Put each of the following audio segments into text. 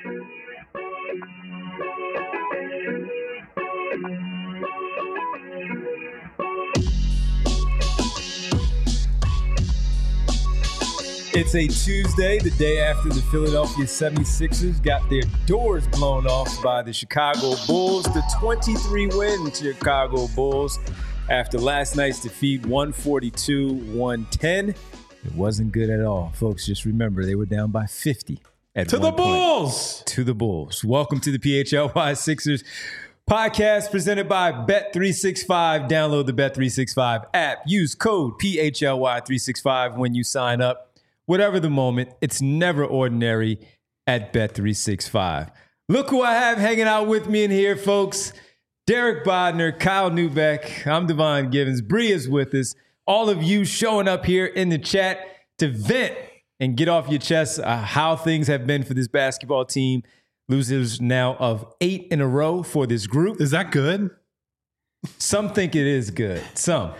It's a Tuesday, the day after the Philadelphia 76ers got their doors blown off by the Chicago Bulls. The 23-win Chicago Bulls after last night's defeat, 142-110. It wasn't good at all. Folks, just remember, they were down by 50 at to the Bulls. To the Bulls. Welcome to the PHLY Sixers podcast presented by Bet365. Download the Bet365 app. Use code PHLY365 when you sign up. Whatever the moment, it's never ordinary at Bet365. Look who I have hanging out with me in here, folks. Derek Bodner, Kyle Neubeck, I'm Devon Givens. Bree is with us. All of you showing up here in the chat to vent and get off your chest how things have been for this basketball team. Losers now of 8 in a row for this group. Is that good? Some think it is good. Some.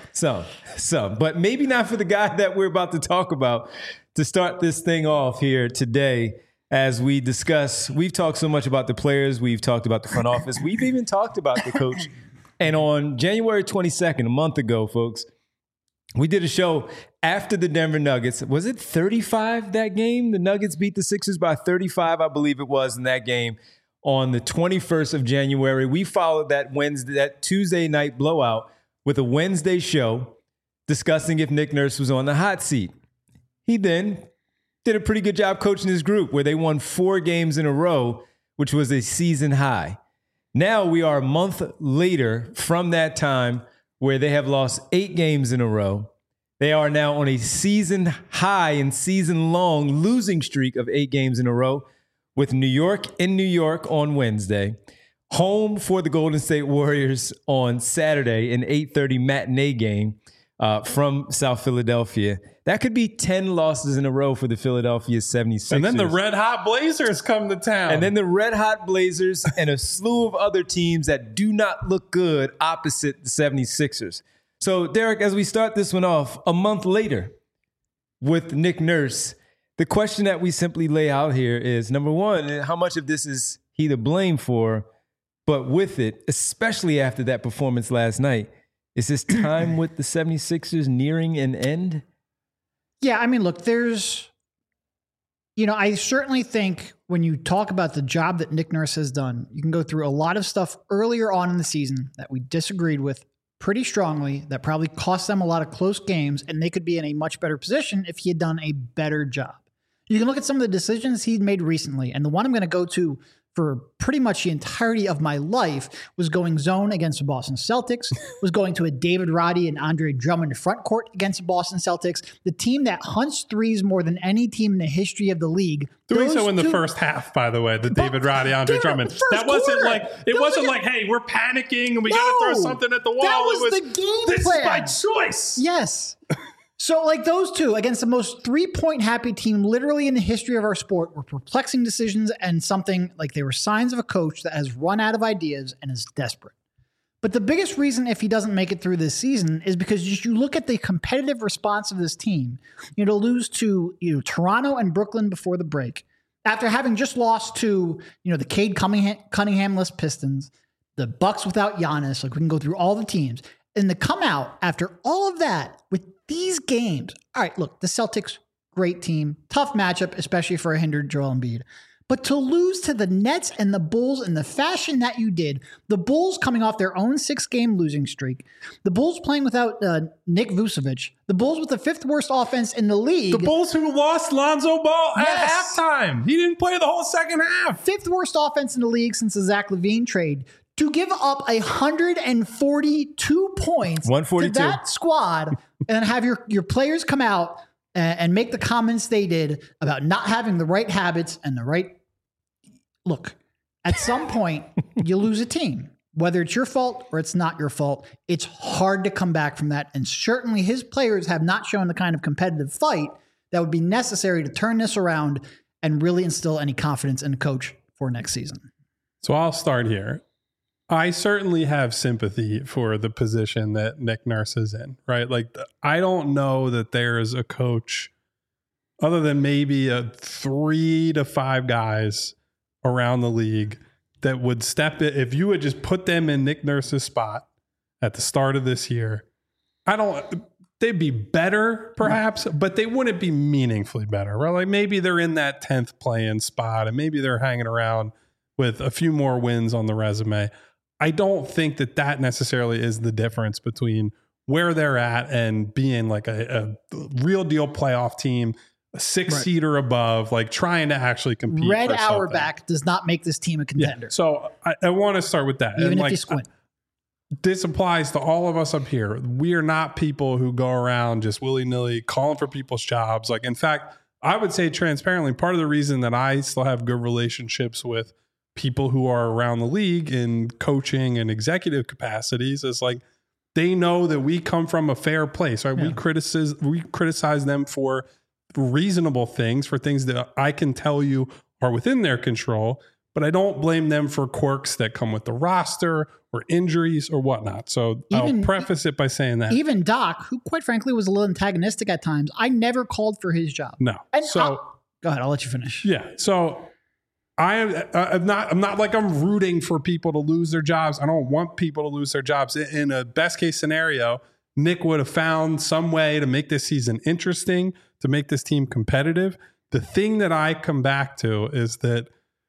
But maybe not for the guy that we're about to talk about. To start this thing off here today, as we discuss, we've talked so much about the players, we've talked about the front office, we've even talked about the coach. And on January 22nd, a month ago, folks, we did a show after the Denver Nuggets. Was it 35 that game? The Nuggets beat the Sixers by 35, I believe it was, in that game on the 21st of January. We followed that Tuesday night blowout with a Wednesday show discussing if Nick Nurse was on the hot seat. He then did a pretty good job coaching his group where they won 4 games in a row, which was a season high. Now we are a month later from that time where they have lost 8 games in a row. They are now on a season high and season long losing streak of 8 games in a row with New York in New York on Wednesday, home for the Golden State Warriors on Saturday, an 8:30 matinee game from South Philadelphia. That could be 10 losses in a row for the Philadelphia 76ers. And then the Red Hot Blazers come to town. And then the Red Hot Blazers and a slew of other teams that do not look good opposite the 76ers. So, Derek, as we start this one off, a month later with Nick Nurse, the question that we simply lay out here is, number one, how much of this is he to blame for? But with it, especially after that performance last night, is his time with the 76ers nearing an end? Yeah, I mean, look, I certainly think when you talk about the job that Nick Nurse has done, you can go through a lot of stuff earlier on in the season that we disagreed with pretty strongly, that probably cost them a lot of close games, and they could be in a much better position if he had done a better job. You can look at some of the decisions he'd made recently, and the one I'm going to go to for pretty much the entirety of my life was going zone against the Boston Celtics, was going to a David Roddy and Andre Drummond front court against the Boston Celtics, the team that hunts threes more than any team in the history of the league. Doing so in the first half, by the way, the David Roddy, Andre Drummond. That wasn't like, hey, we're panicking and we got to throw something at the wall. That was the game this plan. This is my choice. Yes. So like those two against the most 3-point happy team literally in the history of our sport were perplexing decisions and something like they were signs of a coach that has run out of ideas and is desperate. But the biggest reason if he doesn't make it through this season is because you look at the competitive response of this team, to lose to Toronto and Brooklyn before the break, after having just lost to the Cade Cunningham-less Pistons, the Bucks without Giannis, like we can go through all the teams, and to come out after all of that with these games. All right, look, the Celtics, great team, tough matchup, especially for a hindered Joel Embiid. But to lose to the Nets and the Bulls in the fashion that you did, the Bulls coming off their own 6-game losing streak, the Bulls playing without Nick Vucevic, the Bulls with the 5th worst offense in the league. The Bulls who lost Lonzo Ball at halftime. He didn't play the whole second half. 5th worst offense in the league since the Zach LaVine trade. To give up 142 points 142 to that squad and have your players come out and make the comments they did about not having the right habits and the right look, at some point you lose a team, whether it's your fault or it's not your fault. It's hard to come back from that. And certainly his players have not shown the kind of competitive fight that would be necessary to turn this around and really instill any confidence in the coach for next season. So I'll start here. I certainly have sympathy for the position that Nick Nurse is in, right? Like, I don't know that there is a coach other than maybe 3 to 5 guys around the league that would step it. If you would just put them in Nick Nurse's spot at the start of this year, they'd be better perhaps, but they wouldn't be meaningfully better, right? Like maybe they're in that 10th play-in spot and maybe they're hanging around with a few more wins on the resume. I don't think that necessarily is the difference between where they're at and being like a real deal playoff team, a 6-seed or above, like trying to actually compete. Red for something. Auerbach does not make this team a contender. Yeah. So I want to start with that. Even and if like, you squint. This applies to all of us up here. We are not people who go around just willy-nilly calling for people's jobs. Like, in fact, I would say transparently, part of the reason that I still have good relationships with people who are around the league in coaching and executive capacities is like, they know that we come from a fair place, right? Yeah. We criticize them for reasonable things, for things that I can tell you are within their control, but I don't blame them for quirks that come with the roster or injuries or whatnot. So I'll preface it by saying that. Even Doc, who quite frankly was a little antagonistic at times, I never called for his job. No. And go ahead, I'll let you finish. Yeah. So I'm not like I'm rooting for people to lose their jobs. I don't want people to lose their jobs. In a best case scenario, Nick would have found some way to make this season interesting, to make this team competitive. The thing that I come back to is that,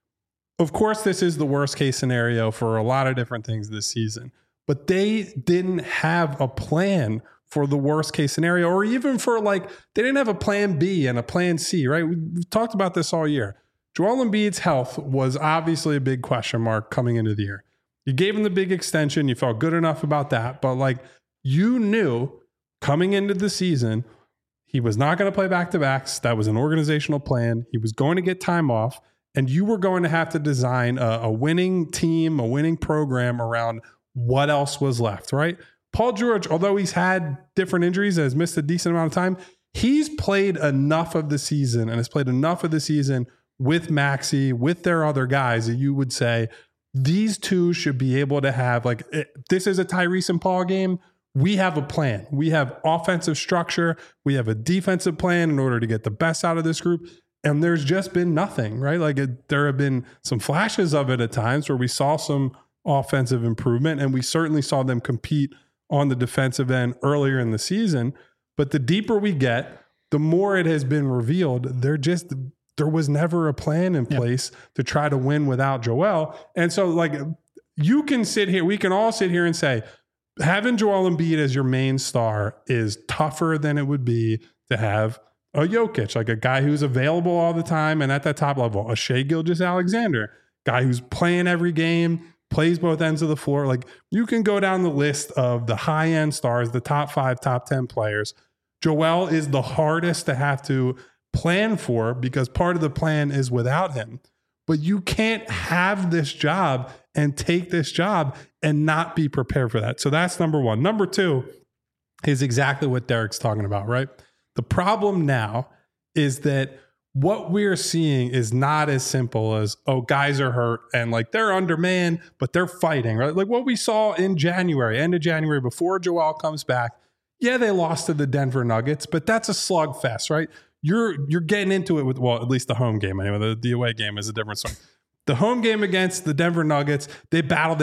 of course, this is the worst case scenario for a lot of different things this season, but they didn't have a plan for the worst case scenario, or even for they didn't have a plan B and a plan C, right? We've talked about this all year. Joel Embiid's health was obviously a big question mark coming into the year. You gave him the big extension. You felt good enough about that, but you knew coming into the season, he was not going to play back-to-backs. That was an organizational plan. He was going to get time off. And you were going to have to design a winning team, a winning program around what else was left, right? Paul George, although he's had different injuries and has missed a decent amount of time, he's played enough of the season and has played enough of the season with Maxey, with their other guys that you would say these two should be able to have, this is a Tyrese and Paul game. We have a plan. We have offensive structure. We have a defensive plan in order to get the best out of this group. And there's just been nothing, right? There have been some flashes of it at times where we saw some offensive improvement, and we certainly saw them compete on the defensive end earlier in the season. But the deeper we get, the more it has been revealed, there was never a plan in place to try to win without Joel. And so you can sit here, we can all sit here and say, having Joel Embiid as your main star is tougher than it would be to have a Jokic, a guy who's available all the time and at that top level, a Shai Gilgeous-Alexander, guy who's playing every game, plays both ends of the floor. You can go down the list of the high-end stars, the top 5, top 10 players. Joel is the hardest to have to plan for because part of the plan is without him. But you can't have this job and take this job and not be prepared for that. So that's number one. Number two is exactly what Derek's talking about, right? The problem now is that what we're seeing is not as simple as, guys are hurt and they're undermanned, but they're fighting, right? What we saw in January, end of January, before Joel comes back. Yeah, they lost to the Denver Nuggets, but that's a slugfest, right? You're getting into it with, at least the home game anyway. The away game is a different story. The home game against the Denver Nuggets, they battle.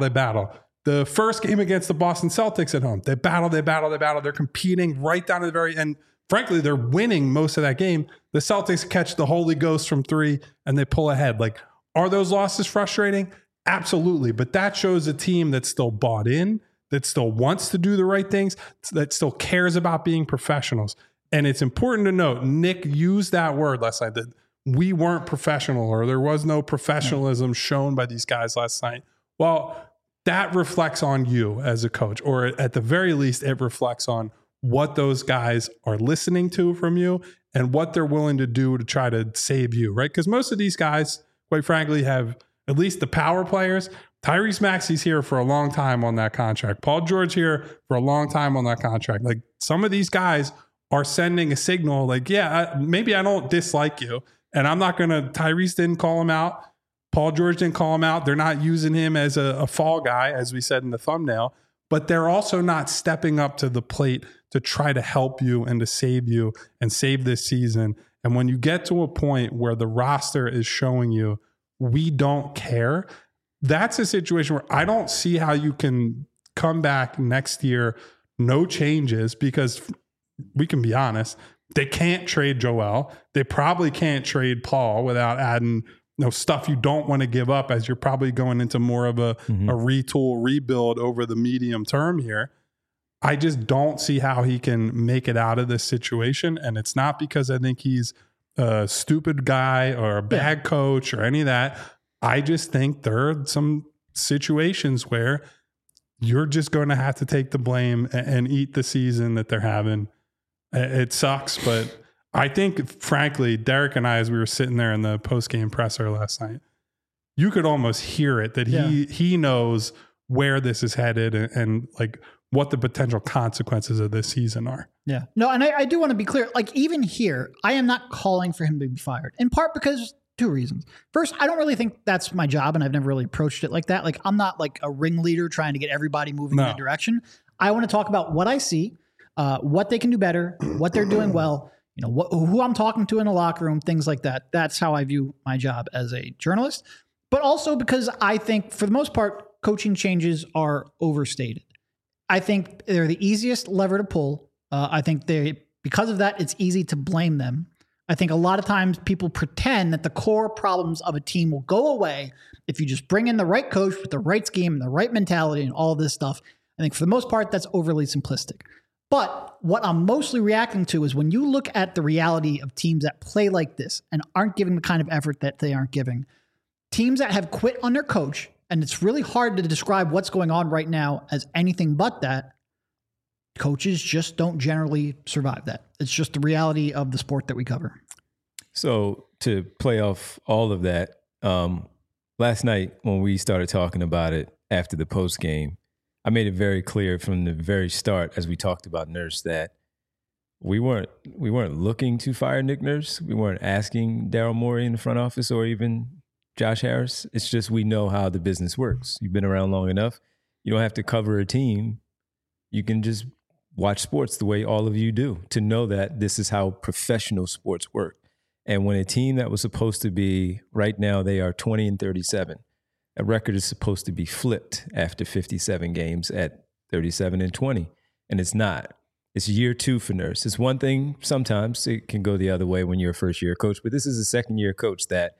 The first game against the Boston Celtics at home, they battle. They're competing right down to the very end. Frankly, they're winning most of that game. The Celtics catch the Holy Ghost from 3 and they pull ahead. Are those losses frustrating? Absolutely. But that shows a team that's still bought in, that still wants to do the right things, that still cares about being professionals. And it's important to note, Nick used that word last night, that we weren't professional or there was no professionalism shown by these guys last night. Well, that reflects on you as a coach, or at the very least, it reflects on what those guys are listening to from you and what they're willing to do to try to save you, right? Because most of these guys, quite frankly, have at least the power players. Tyrese Maxey's here for a long time on that contract. Paul George here for a long time on that contract. Some of these guys are sending a signal maybe I don't dislike you. And I'm not going to, Tyrese didn't call him out. Paul George didn't call him out. They're not using him as a fall guy, as we said in the thumbnail. But they're also not stepping up to the plate to try to help you and to save you and save this season. And when you get to a point where the roster is showing you we don't care. That's a situation where I don't see how you can come back next year, no changes, because we can be honest, they can't trade Joel. They probably can't trade Paul without adding stuff you don't want to give up, as you're probably going into more of a retool, rebuild over the medium term here. I just don't see how he can make it out of this situation. And it's not because I think he's a stupid guy or a bad coach or any of that. I just think there are some situations where you're just going to have to take the blame and eat the season that they're having. It sucks, but I think, frankly, Derek and I, as we were sitting there in the post-game presser last night, you could almost hear it that he knows where this is headed and like what the potential consequences of this season are. Yeah. No, and I do want to be clear. Like, even here, I am not calling for him to be fired, in part because two reasons. First, I don't really think that's my job, and I've never really approached it like that. Like, I'm not like a ringleader trying to get everybody moving in that direction. I want to talk about what I see, what they can do better, what they're doing well, who I'm talking to in the locker room, things like that. That's how I view my job as a journalist. But also because I think, for the most part, coaching changes are overstated. I think they're the easiest lever to pull. I think because of that, it's easy to blame them. I think a lot of times people pretend that the core problems of a team will go away if you just bring in the right coach with the right scheme and the right mentality and all this stuff. I think for the most part, that's overly simplistic. But what I'm mostly reacting to is when you look at the reality of teams that play like this and aren't giving the kind of effort that they aren't giving, teams that have quit on their coach, and it's really hard to describe what's going on right now as anything but that, coaches just don't generally survive that. It's just the reality of the sport that we cover. So to play off all of that, last night when we started talking about it after the post game, I made it very clear from the very start, as we talked about Nurse, that we weren't looking to fire Nick Nurse. We weren't asking Daryl Morey in the front office or even Josh Harris. It's just we know how the business works. You've been around long enough. You don't have to cover a team. You can just watch sports the way all of you do to know that this is how professional sports work. And when a team that was supposed to be, right now they are 20-37, a record is supposed to be flipped after 57 games at 37-20, and it's not. It's year 2 for Nurse. It's one thing, sometimes it can go the other way when you're a first-year coach, but this is a second-year coach that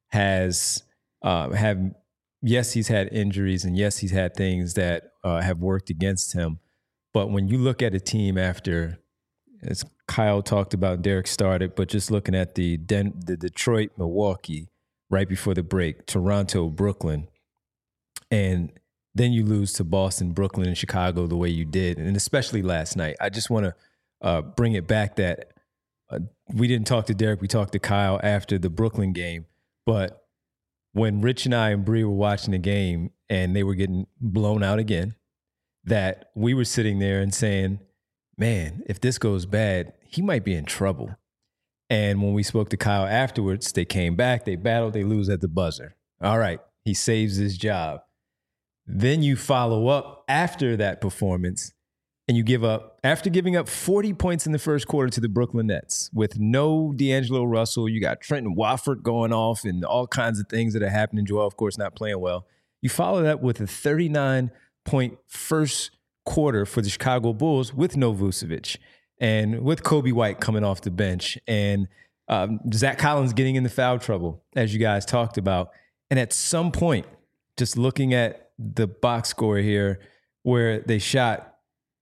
has yes, he's had injuries, and yes, he's had things that have worked against him. But when you look at a team after, as Kyle talked about, Derek started, but just looking at the Detroit, Milwaukee right before the break, Toronto, Brooklyn, and then you lose to Boston, Brooklyn, and Chicago the way you did, and especially last night. I just want to bring it back that we didn't talk to Derek, we talked to Kyle after the Brooklyn game, but when Rich and I and Bree were watching the game and they were getting blown out again, that we were sitting there and saying, man, if this goes bad, he might be in trouble. And when we spoke to Kyle afterwards, they came back, they battled, they lose at the buzzer. All right, he saves his job. Then you follow up after that performance and you give up, after giving up 40 points in the first quarter to the Brooklyn Nets with no D'Angelo Russell, you got Trenton Wofford going off and all kinds of things that are happening. Joel, of course, not playing well. You follow that with a 39-point first quarter for the Chicago Bulls with no Vucevic and with Kobe White coming off the bench and Zach Collins getting into foul trouble, as you guys talked about. And at some point, just looking at the box score here, where they shot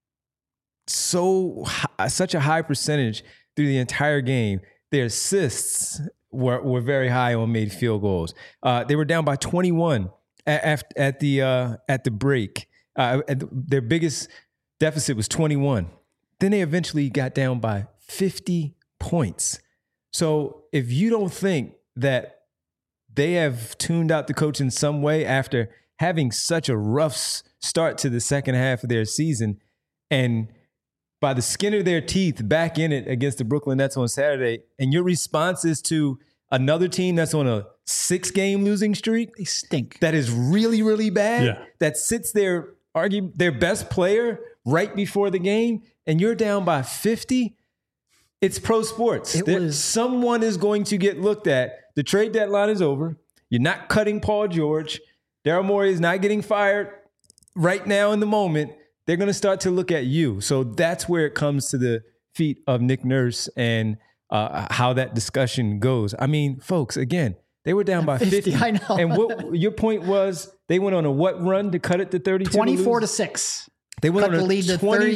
such a high percentage through the entire game, their assists were very high on made field goals. They were down by 21 at the break. Their biggest deficit was 21. Then they eventually got down by 50 points. So if you don't think that they have tuned out the coach in some way after having such a rough start to the second half of their season, and by the skin of their teeth back in it against the Brooklyn Nets on Saturday, and your response is to another team that's on a 6-game losing streak, They stink. that is really, really bad, that sits there, their best player right before the game, and you're down by 50, it's pro sports. Someone is going to get looked at. The trade deadline is over. You're not cutting Paul George. Daryl Morey is not getting fired right now in the moment. They're going to start to look at you. So that's where it comes to the feet of Nick Nurse and how that discussion goes. I mean, folks, again, they were down by 50. I know. And what your point was, they went on a what run to cut it to 32? 24-6. They went Cut on the a lead to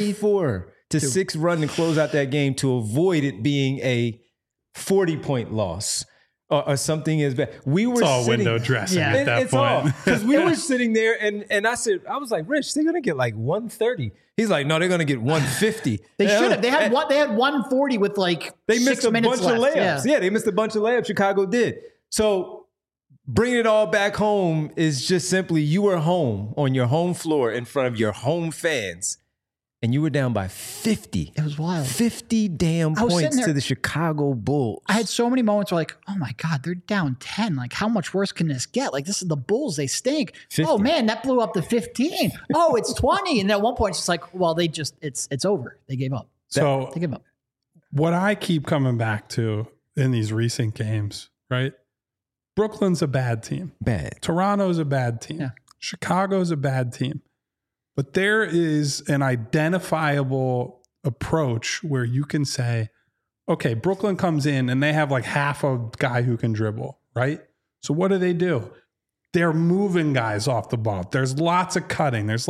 24-6 run to close out that game to avoid it being a 40-point loss or something as bad. We were It's all sitting, window dressing Yeah. at that it's point. all because we were sitting there and I said, I was like, Rich, they're gonna get like 130. He's like, no, they're gonna get 150. They should have. They had 140 with like They 6 missed a minutes bunch of left. layups. Yeah, they missed a bunch of layups. Chicago did. So bringing it all back home is just simply you were home on your home floor in front of your home fans, and you were down by 50. It was wild. 50 damn I was points sitting there- to the Chicago Bulls. I had so many moments where like, oh my God, they're down 10. Like, how much worse can this get? Like, this is the Bulls. They stink. 50. Oh man, that blew up to 15. Oh, it's 20. And at one point, it's just like, well, it's over. They gave up. So They gave up. what I keep coming back to in these recent games, right? Brooklyn's a bad team. Bad. Toronto's a bad team. Yeah. Chicago's a bad team. But there is an identifiable approach where you can say, okay, Brooklyn comes in and they have like half a guy who can dribble, right? So what do? They're moving guys off the ball. There's lots of cutting. There's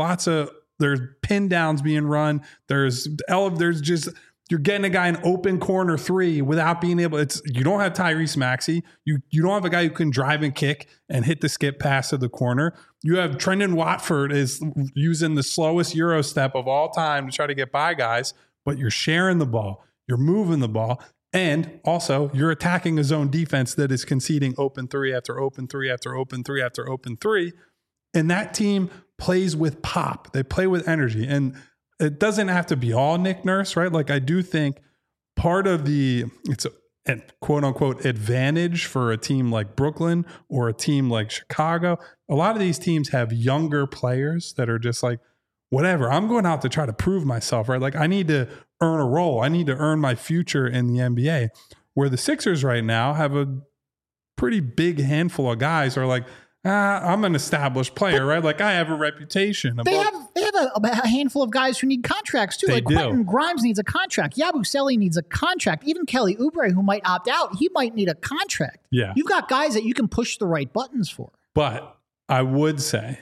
pin downs being run. There's just, you're getting a guy in open corner three without being able, you don't have Tyrese Maxey. You don't have a guy who can drive and kick and hit the skip pass to the corner. You have Trendon Watford is using the slowest Euro step of all time to try to get by guys, but you're sharing the ball. You're moving the ball. And also, you're attacking a zone defense that is conceding open three after open three after open three after open three. And that team plays with pop. They play with energy. And it doesn't have to be all Nick Nurse, right? Like, I do think part of it's a quote unquote advantage for a team like Brooklyn or a team like Chicago. A lot of these teams have younger players that are just like, whatever, I'm going out to try to prove myself, right? Like, I need to earn a role. I need to earn my future in the NBA. Where the Sixers right now have a pretty big handful of guys who are like, I'm an established player, right? Like, I have a reputation. They have a handful of guys who need contracts too. They Like do. Quentin Grimes needs a contract. Yabusele needs a contract. Even Kelly Oubre, who might opt out, he might need a contract. Yeah. You've got guys that you can push the right buttons for. But I would say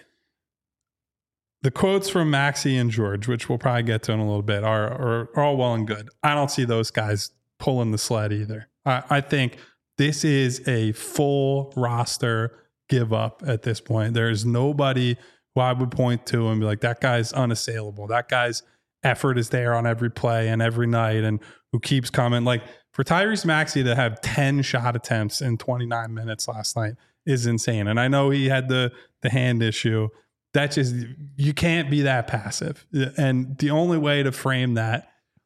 the quotes from Maxey and George, which we'll probably get to in a little bit, are all well and good. I don't see those guys pulling the sled either. I think this is a full roster give up at this point. There's nobody who I would point to and be like, that guy's unassailable. That guy's effort is there on every play and every night and who keeps coming. Like, for Tyrese Maxey to have 10 shot attempts in 29 minutes last night is insane. And I know he had the hand issue. That just, you can't be that passive. And the only way to frame that,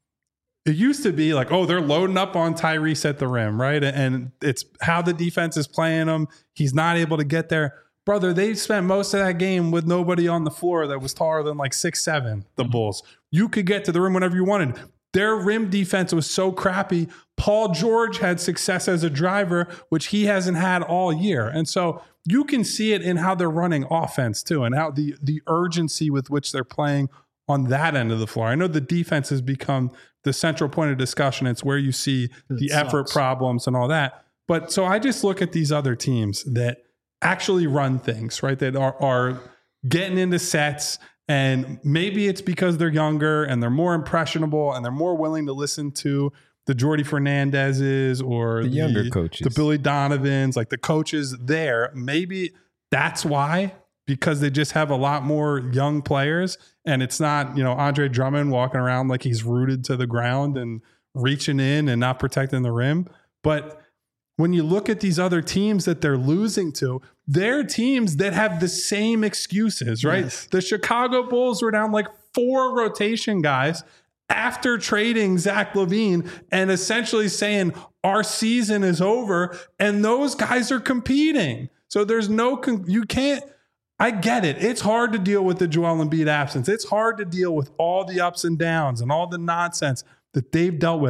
it used to be like, oh, they're loading up on Tyrese at the rim, right? And it's how the defense is playing him. He's not able to get there. Brother, they spent most of that game with nobody on the floor that was taller than like 6'7", the Bulls. You could get to the rim whenever you wanted. Their rim defense was so crappy. Paul George had success as a driver, which he hasn't had all year. And so you can see it in how they're running offense too, and how the urgency with which they're playing on that end of the floor. I know the defense has become the central point of discussion. It's where you see the effort problems and all that. But so I just look at these other teams that actually run things, right? That are getting into sets, and maybe it's because they're younger and they're more impressionable and they're more willing to listen to the Jordy Fernandezes or The younger coaches. the Billy Donovans, like the coaches there. Maybe that's why, because they just have a lot more young players, and it's not, Andre Drummond walking around like he's rooted to the ground and reaching in and not protecting the rim. But when you look at these other teams that they're losing to, they're teams that have the same excuses, right? Yes. The Chicago Bulls were down like 4 rotation guys after trading Zach LaVine and essentially saying our season is over, and those guys are competing. So there's you can't, I get it. It's hard to deal with the Joel Embiid absence. It's hard to deal with all the ups and downs and all the nonsense that they've dealt with.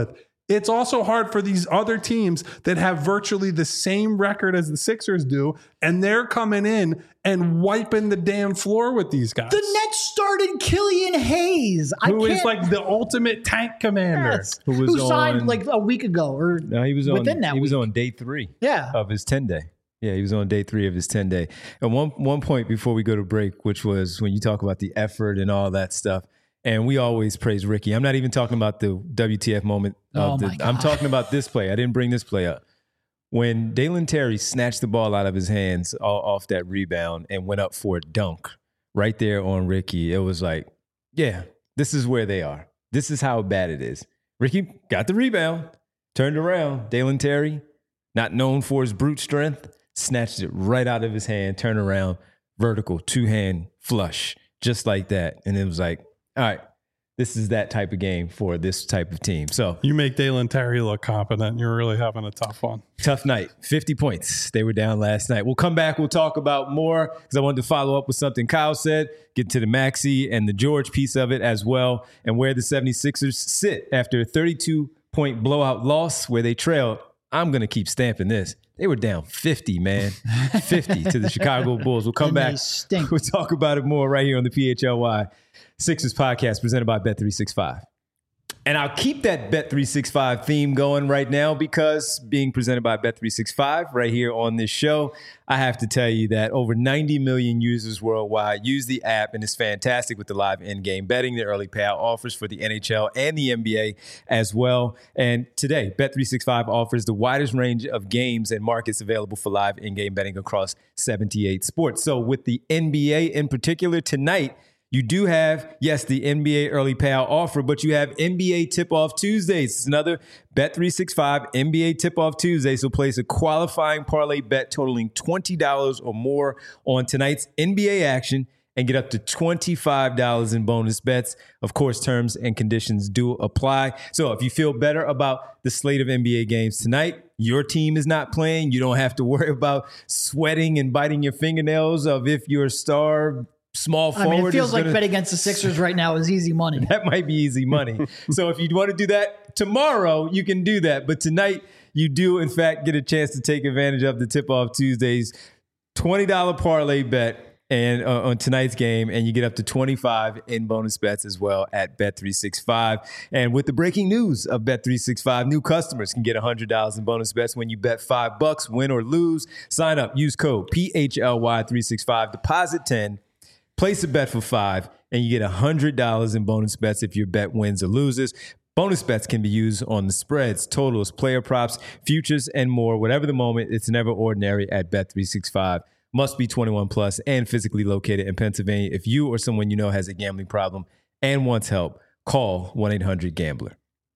it's also hard for these other teams that have virtually the same record as the Sixers do, and they're coming in and wiping the damn floor with these guys. The Nets started Killian Hayes, who is like the ultimate tank commander. Yes. Who signed like a week ago or no, he was within that he was week. on day 3 Yeah. of his 10-day. Yeah, he was on day 3 of his 10-day. And one point before we go to break, which was when you talk about the effort and all that stuff, and we always praise Ricky. I'm not even talking about the WTF moment. I'm talking about this play. I didn't bring this play up. When Dalen Terry snatched the ball out of his hands off that rebound and went up for a dunk right there on Ricky, it was like, yeah, this is where they are. This is how bad it is. Ricky got the rebound, turned around. Dalen Terry, not known for his brute strength, snatched it right out of his hand, turned around, vertical, 2-hand flush, just like that. And it was like, all right, this is that type of game for this type of team. So you make Dalen Terry look competent. You're really having a tough one. Tough night. 50 points. They were down last night. We'll come back. We'll talk about more because I wanted to follow up with something Kyle said, get to the Maxey and the George piece of it as well, and where the 76ers sit after a 32-point blowout loss where they trailed. I'm going to keep stamping this. They were down 50, man. 50 to the Chicago Bulls. We'll come back. We'll talk about it more right here on the PHLY Sixers podcast presented by Bet365. And I'll keep that Bet365 theme going right now because being presented by Bet365 right here on this show, I have to tell you that over 90 million users worldwide use the app, and it's fantastic with the live in-game betting, the early payout offers for the NHL and the NBA as well. And today, Bet365 offers the widest range of games and markets available for live in-game betting across 78 sports. So with the NBA in particular tonight, you do have, yes, the NBA early payout offer, but you have NBA Tip-Off Tuesdays. It's another Bet365 NBA Tip-Off Tuesday. So place a qualifying parlay bet totaling $20 or more on tonight's NBA action and get up to $25 in bonus bets. Of course, terms and conditions do apply. So if you feel better about the slate of NBA games tonight, your team is not playing, you don't have to worry about sweating and biting your fingernails of if your star small forward. I mean, it feels like bet against the Sixers right now is easy money. That might be easy money. So if you want to do that tomorrow, you can do that. But tonight, you do, in fact, get a chance to take advantage of the Tip-Off Tuesdays $20 parlay bet and on tonight's game, and you get up to 25 in bonus bets as well at Bet365. And with the breaking news of Bet365, new customers can get $100 in bonus bets when you bet $5, win or lose. Sign up, use code PHLY365, deposit 10. Place a bet for $5, and you get $100 in bonus bets if your bet wins or loses. Bonus bets can be used on the spreads, totals, player props, futures, and more. Whatever the moment, it's never ordinary at Bet365. Must be 21 plus and physically located in Pennsylvania. If you or someone you know has a gambling problem and wants help, call 1-800-GAMBLER.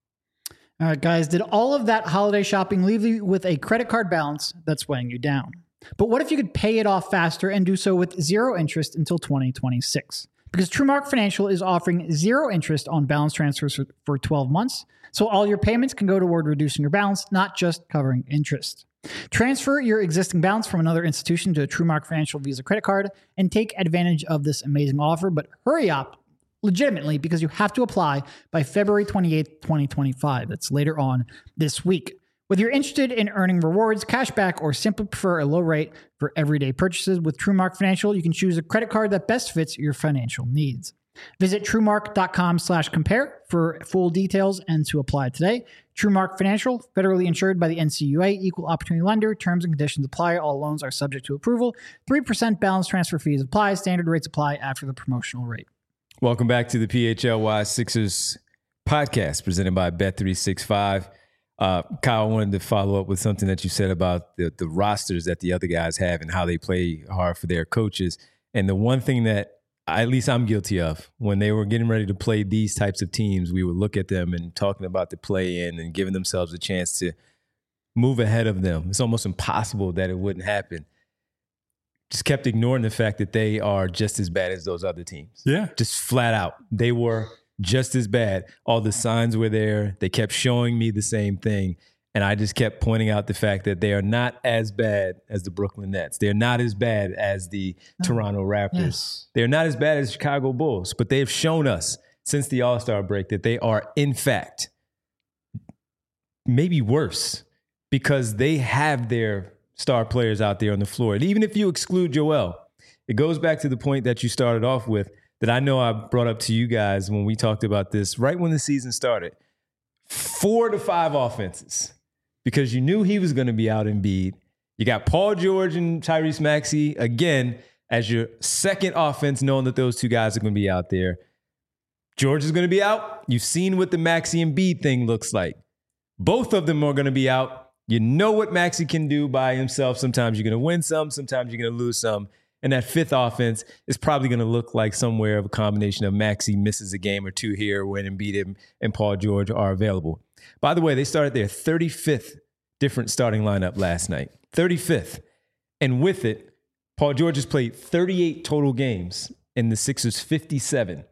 All right, guys, did all of that holiday shopping leave you with a credit card balance that's weighing you down? But what if you could pay it off faster and do so with zero interest until 2026? Because TrueMark Financial is offering zero interest on balance transfers for 12 months. So all your payments can go toward reducing your balance, not just covering interest. Transfer your existing balance from another institution to a TrueMark Financial Visa credit card and take advantage of this amazing offer. But hurry up, legitimately, because you have to apply by February 28th, 2025. That's later on this week. Whether you're interested in earning rewards, cash back, or simply prefer a low rate for everyday purchases with TrueMark Financial, you can choose a credit card that best fits your financial needs. Visit TrueMark.com/compare for full details and to apply today. TrueMark Financial, federally insured by the NCUA, equal opportunity lender. Terms and conditions apply. All loans are subject to approval. 3% balance transfer fees apply. Standard rates apply after the promotional rate. Welcome back to the PHLY Sixers podcast presented by Bet365. Kyle, I wanted to follow up with something that you said about the rosters that the other guys have and how they play hard for their coaches. And the one thing that at least I'm guilty of, when they were getting ready to play these types of teams, we would look at them and talking about the play-in and giving themselves a chance to move ahead of them. It's almost impossible that it wouldn't happen. Just kept ignoring the fact that they are just as bad as those other teams. Yeah. Just flat out. They were just as bad. All the signs were there. They kept showing me the same thing. And I just kept pointing out the fact that they are not as bad as the Brooklyn Nets. They're not as bad as the Toronto Raptors. Yes. They're not as bad as the Chicago Bulls. But they have shown us since the All-Star break that they are, in fact, maybe worse because they have their star players out there on the floor. And even if you exclude Joel, it goes back to the point that you started off with that I know I brought up to you guys when we talked about this right when the season started. 4 to 5 offenses because you knew he was going to be out Embiid. You got Paul George and Tyrese Maxey again as your second offense, knowing that those two guys are going to be out there. George is going to be out. You've seen what the Maxey and Embiid thing looks like. Both of them are going to be out. You know what Maxey can do by himself. Sometimes you're going to win some, sometimes you're going to lose some. And that fifth offense is probably going to look like somewhere of a combination of Maxey misses a game or two here when Embiid and Paul George are available. By the way, they started their 35th different starting lineup last night. 35th. And with it, Paul George has played 38 total games and the Sixers 57.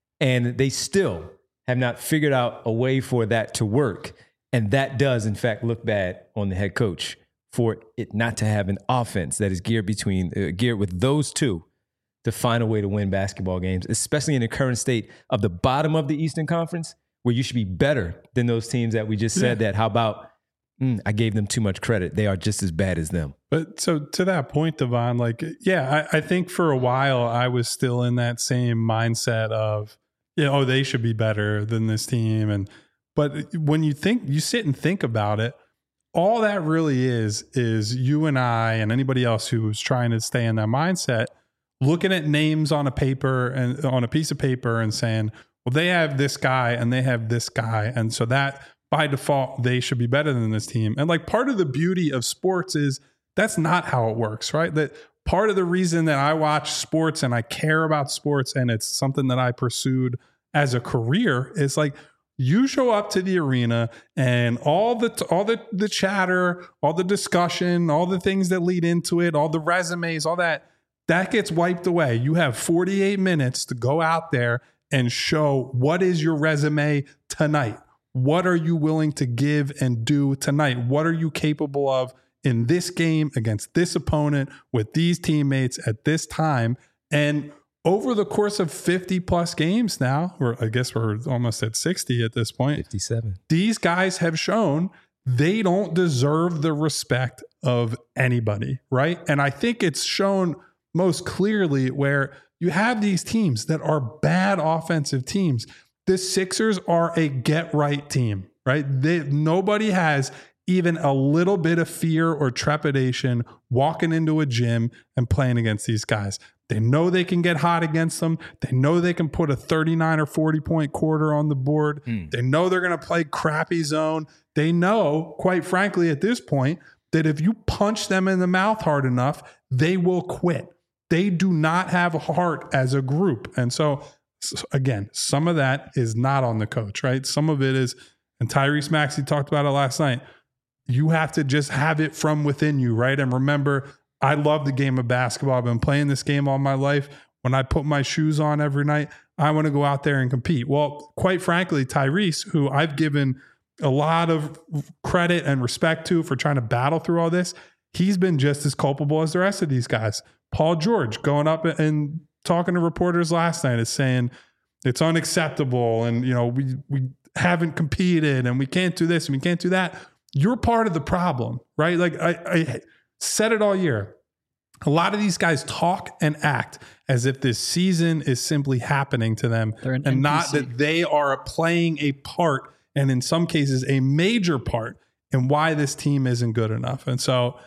And they still have not figured out a way for that to work. And that does, in fact, look bad on the head coach for it not to have an offense that is geared with those two to find a way to win basketball games, especially in the current state of the bottom of the Eastern Conference, where you should be better than those teams that we just said that. How about, I gave them too much credit. They are just as bad as them. But so to that point, Devon, like, I think for a while I was still in that same mindset of, they should be better than this team. But when you sit and think about it, all that really is you and I and anybody else who's trying to stay in that mindset, looking at names on a paper and on a piece of paper and saying, well, they have this guy and they have this guy. And so that by default, they should be better than this team. And like part of the beauty of sports is that's not how it works, right? That part of the reason that I watch sports and I care about sports and it's something that I pursued as a career is like, you show up to the arena and all the chatter, all the discussion, all the things that lead into it, all the resumes, all that gets wiped away. You have 48 minutes to go out there and show what is your resume tonight. What are you willing to give and do tonight? What are you capable of in this game against this opponent with these teammates at this time? And over the course of 50 plus games now, or I guess we're almost at 60 at this point. 57. These guys have shown they don't deserve the respect of anybody, right? And I think it's shown most clearly where you have these teams that are bad offensive teams. The Sixers are a get-right team, right? Nobody has even a little bit of fear or trepidation walking into a gym and playing against these guys. They know they can get hot against them. They know they can put a 39 or 40 point quarter on the board. They know they're going to play crappy zone. They know, quite frankly, at this point, that if you punch them in the mouth hard enough, they will quit. They do not have a heart as a group. And so, again, some of that is not on the coach, right? Some of it is, and Tyrese Maxey talked about it last night, you have to just have it from within you, right? And remember, I love the game of basketball. I've been playing this game all my life. When I put my shoes on every night, I want to go out there and compete. Well, quite frankly, Tyrese, who I've given a lot of credit and respect to for trying to battle through all this, he's been just as culpable as the rest of these guys. Paul George going up and talking to reporters last night is saying it's unacceptable and we haven't competed and we can't do this and we can't do that. You're part of the problem, right? Like I said it all year. A lot of these guys talk and act as if this season is simply happening to them and NPC. Not that they are playing a part, and in some cases a major part, in why this team isn't good enough. And so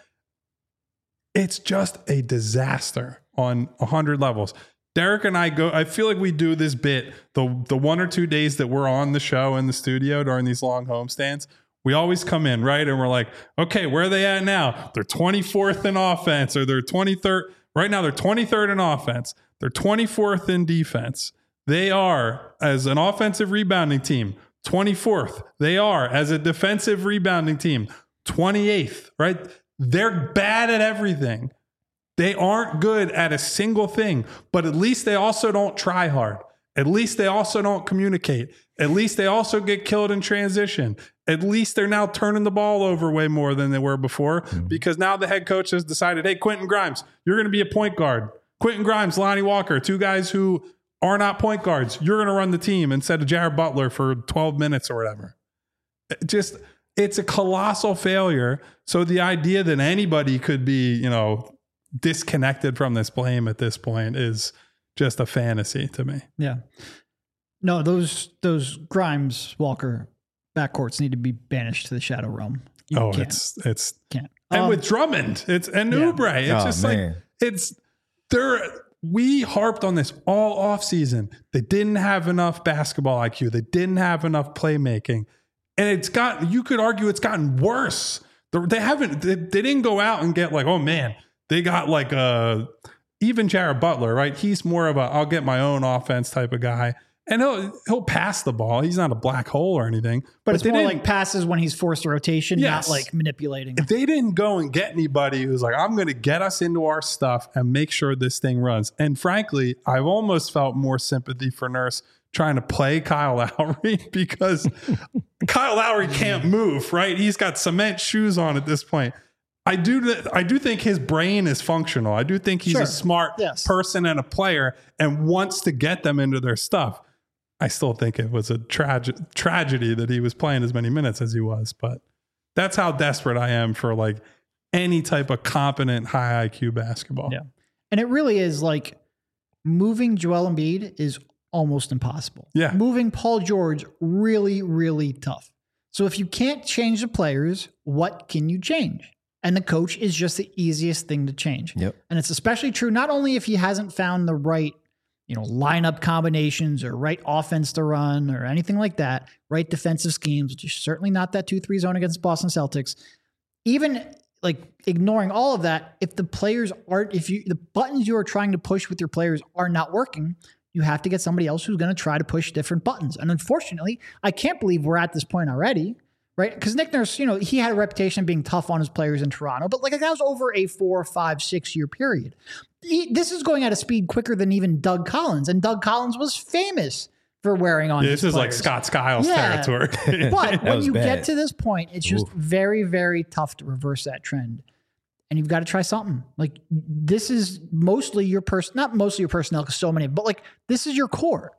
it's just a disaster on 100 levels. Derek and I feel like we do this bit, the 1 or 2 days that we're on the show in the studio during these long homestands. We always come in, right? And we're like, okay, where are they at now? They're 24th in offense, or they're 23rd. Right now, they're 23rd in offense. They're 24th in defense. They are, as an offensive rebounding team, 24th. They are, as a defensive rebounding team, 28th, right? They're bad at everything. They aren't good at a single thing, but at least they also don't try hard. At least they also don't communicate. At least they also get killed in transition. At least they're now turning the ball over way more than they were before because now the head coach has decided, hey, Quentin Grimes, you're going to be a point guard. Quentin Grimes, Lonnie Walker, two guys who are not point guards. You're going to run the team instead of Jared Butler for 12 minutes or whatever. Just It's a colossal failure. So the idea that anybody could be, disconnected from this blame at this point is just a fantasy to me. Yeah. No, those Grimes Walker backcourts need to be banished to the Shadow Realm. It's can't. And with Drummond, it's Oubre. It's just man. We harped on this all off season. They didn't have enough basketball IQ. They didn't have enough playmaking. And you could argue it's gotten worse. They didn't go out and get like, oh man, they got like even Jared Butler, right? He's more of I'll get my own offense type of guy. And he'll pass the ball. He's not a black hole or anything. But it's more like passes when he's forced a rotation, not like manipulating. If they didn't go and get anybody who's like, I'm going to get us into our stuff and make sure this thing runs. And frankly, I've almost felt more sympathy for Nurse trying to play Kyle Lowry because Kyle Lowry can't move, right? He's got cement shoes on at this point. I do think his brain is functional. I do think he's a smart person and a player and wants to get them into their stuff. I still think it was a tragedy that he was playing as many minutes as he was, but that's how desperate I am for like any type of competent high IQ basketball. Yeah. And it really is like moving Joel Embiid is almost impossible. Yeah. Moving Paul George, really, really tough. So if you can't change the players, what can you change? And the coach is just the easiest thing to change. Yep. And it's especially true not only if he hasn't found the right lineup combinations or right offense to run or anything like that, right defensive schemes, which is certainly not that 2-3 zone against Boston Celtics. Even like ignoring all of that, if the players aren't, the buttons you are trying to push with your players are not working, you have to get somebody else who's going to try to push different buttons. And unfortunately, I can't believe we're at this point already, right? Because Nick Nurse, he had a reputation of being tough on his players in Toronto, but like that was over a 4, 5, 6 year period. This is going at a speed quicker than even Doug Collins, and Doug Collins was famous for wearing on his This is players. like Scott Skiles territory. But when you get to this point, it's just very, very tough to reverse that trend. And you've got to try something. Like this is mostly your not mostly your personnel, because so many, but like this is your core.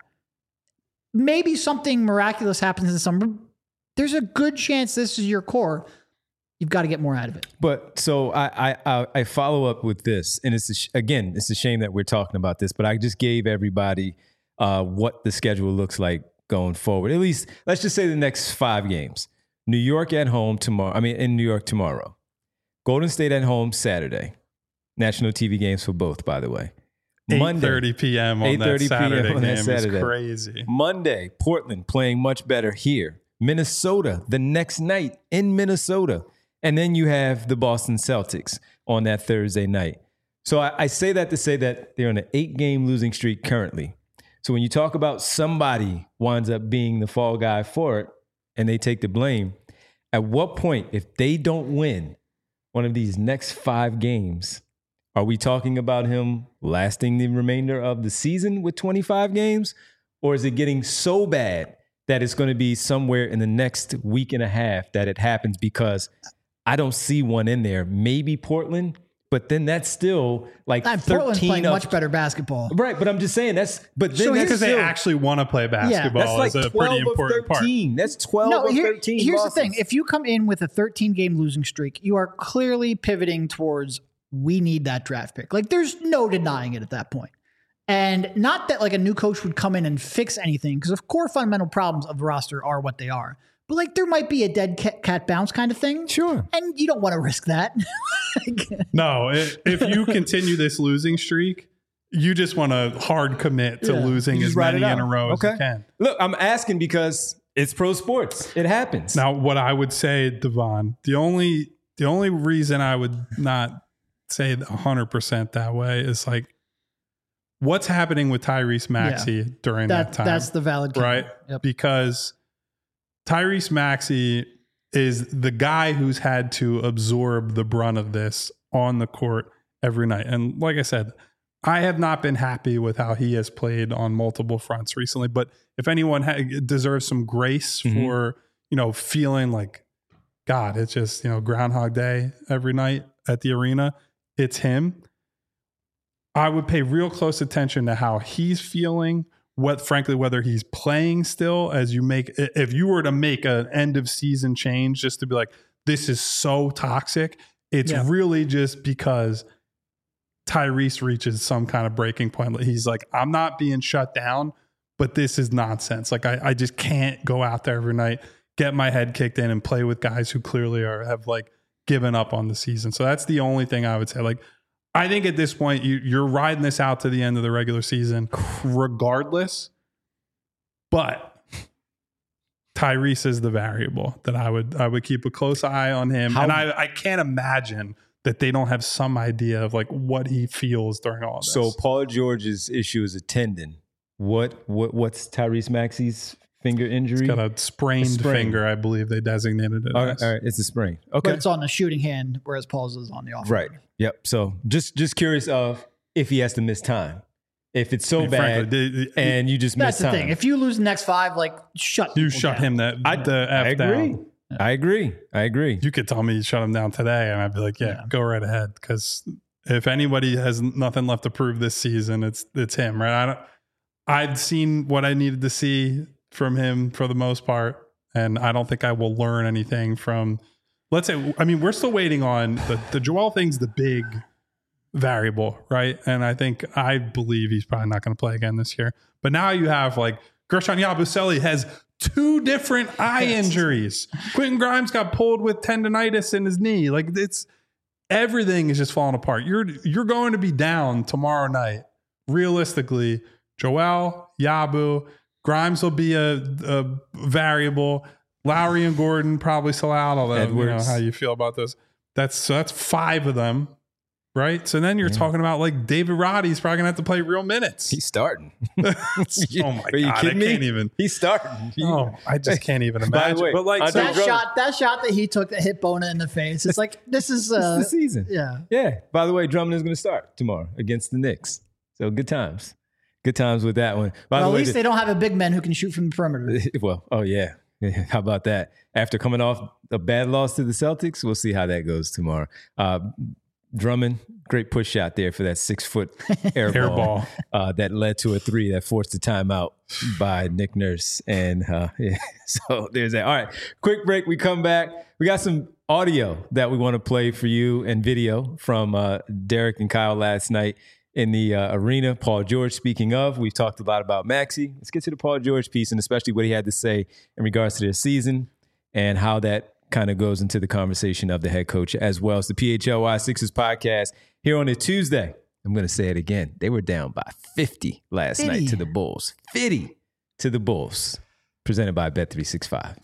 Maybe something miraculous happens in the summer. There's a good chance this is your core. You've got to get more out of it. But so I follow up with this, and it's a shame that we're talking about this, but I just gave everybody what the schedule looks like going forward. At least let's just say the next 5 games. New York at home tomorrow. In New York tomorrow. Golden State at home Saturday. National TV games for both, by the way. 8:30 p.m. on that Saturday game is crazy. Monday, Portland playing much better here. Minnesota the next night in Minnesota. And then you have the Boston Celtics on that Thursday night. So I say that to say that they're on an 8-game losing streak currently. So when you talk about somebody winds up being the fall guy for it and they take the blame, at what point, if they don't win one of these next 5 games, are we talking about him lasting the remainder of the season with 25 games? Or is it getting so bad that it's going to be somewhere in the next week and a half that it happens? Because I don't see one in there. Maybe Portland, but then that's still like 13 Portland's playing much better basketball. Right, but I'm just saying that's because they actually want to play basketball. That's like is a pretty important part. That's 12 of 13 Here's losses. the thing. If you come in with a 13-game losing streak, you are clearly pivoting towards we need that draft pick. Like there's no denying it at that point. And not that like a new coach would come in and fix anything, because of core fundamental problems of the roster are what they are. But like there might be a dead cat bounce kind of thing. Sure. And you don't want to risk that. No, if you continue this losing streak, you just want to hard commit to losing as many in a row as you can. Look, I'm asking because it's pro sports. It happens. Now, what I would say, Devon, the only reason I would not say 100% that way is like, what's happening with Tyrese Maxey during that time? That's the valid point. Right? Yep. Because Tyrese Maxey is the guy who's had to absorb the brunt of this on the court every night. And like I said, I have not been happy with how he has played on multiple fronts recently. But if anyone deserves some grace for, feeling like, God, it's just, Groundhog Day every night at the arena, it's him. I would pay real close attention to how he's feeling whether he's playing still, if you were to make an end of season change just to be like, this is so toxic, it's really just because Tyrese reaches some kind of breaking point. He's like, I'm not being shut down, but this is nonsense. Like I just can't go out there every night, get my head kicked in and play with guys who clearly have like given up on the season. So that's the only thing I would say. Like, I think at this point you're riding this out to the end of the regular season regardless, but Tyrese is the variable that I would keep a close eye on him. And I can't imagine that they don't have some idea of like what he feels during all of this. So Paul George's issue is a tendon. What's Tyrese Maxey's finger injury? He's got a sprained finger, I believe they designated it as. All right, it's a sprain. Okay. But it's on the shooting hand, whereas Paul's is on the off. Right. Yep. So just curious of if he has to miss time. If it's so bad and you just miss time. That's the thing. If you lose the next 5, like shut him the F down. I agree. You could tell me you shut him down today, and I'd be like, yeah. Go right ahead. Because if anybody has nothing left to prove this season, it's him, right? I've seen what I needed to see from him for the most part, and I don't think I will learn anything from. Let's say, I mean, we're still waiting on the Joel thing's the big variable, right? And I believe he's probably not going to play again this year. But now you have like Gershon Yabusele has 2 different eye injuries. Quentin Grimes got pulled with tendonitis in his knee. Like everything is just falling apart. You're going to be down tomorrow night. Realistically, Joel, Yabu, Grimes will be a variable. Lowry and Gordon probably still out. Although you know how you feel about this. That's 5 of them. Right. So then you're talking about like David Roddy's probably going to have to play real minutes. He's starting. Oh my God. Are you kidding me? Can't even. He's starting. I just can't even imagine. By the way, but like that shot that he took that hit Bona in the face. It's like, this is the season. Yeah. Yeah. By the way, Drummond is going to start tomorrow against the Knicks. So good times. Good times with that one. At least they don't have a big man who can shoot from the perimeter. Well, oh yeah. How about that? After coming off a bad loss to the Celtics, we'll see how that goes tomorrow. Drummond, great push shot there for that 6-foot air ball that led to a 3 that forced a timeout by Nick Nurse. And so there's that. All right, quick break. We come back. We got some audio that we want to play for you and video from Derek and Kyle last night in the arena. Paul George, speaking of, we've talked a lot about Maxey. Let's get to the Paul George piece and especially what he had to say in regards to their season and how that kind of goes into the conversation of the head coach as well as the PHLY Sixers podcast here on a Tuesday. I'm going to say it again. They were down by 50 last night to the Bulls. 50 to the Bulls. Presented by Bet365.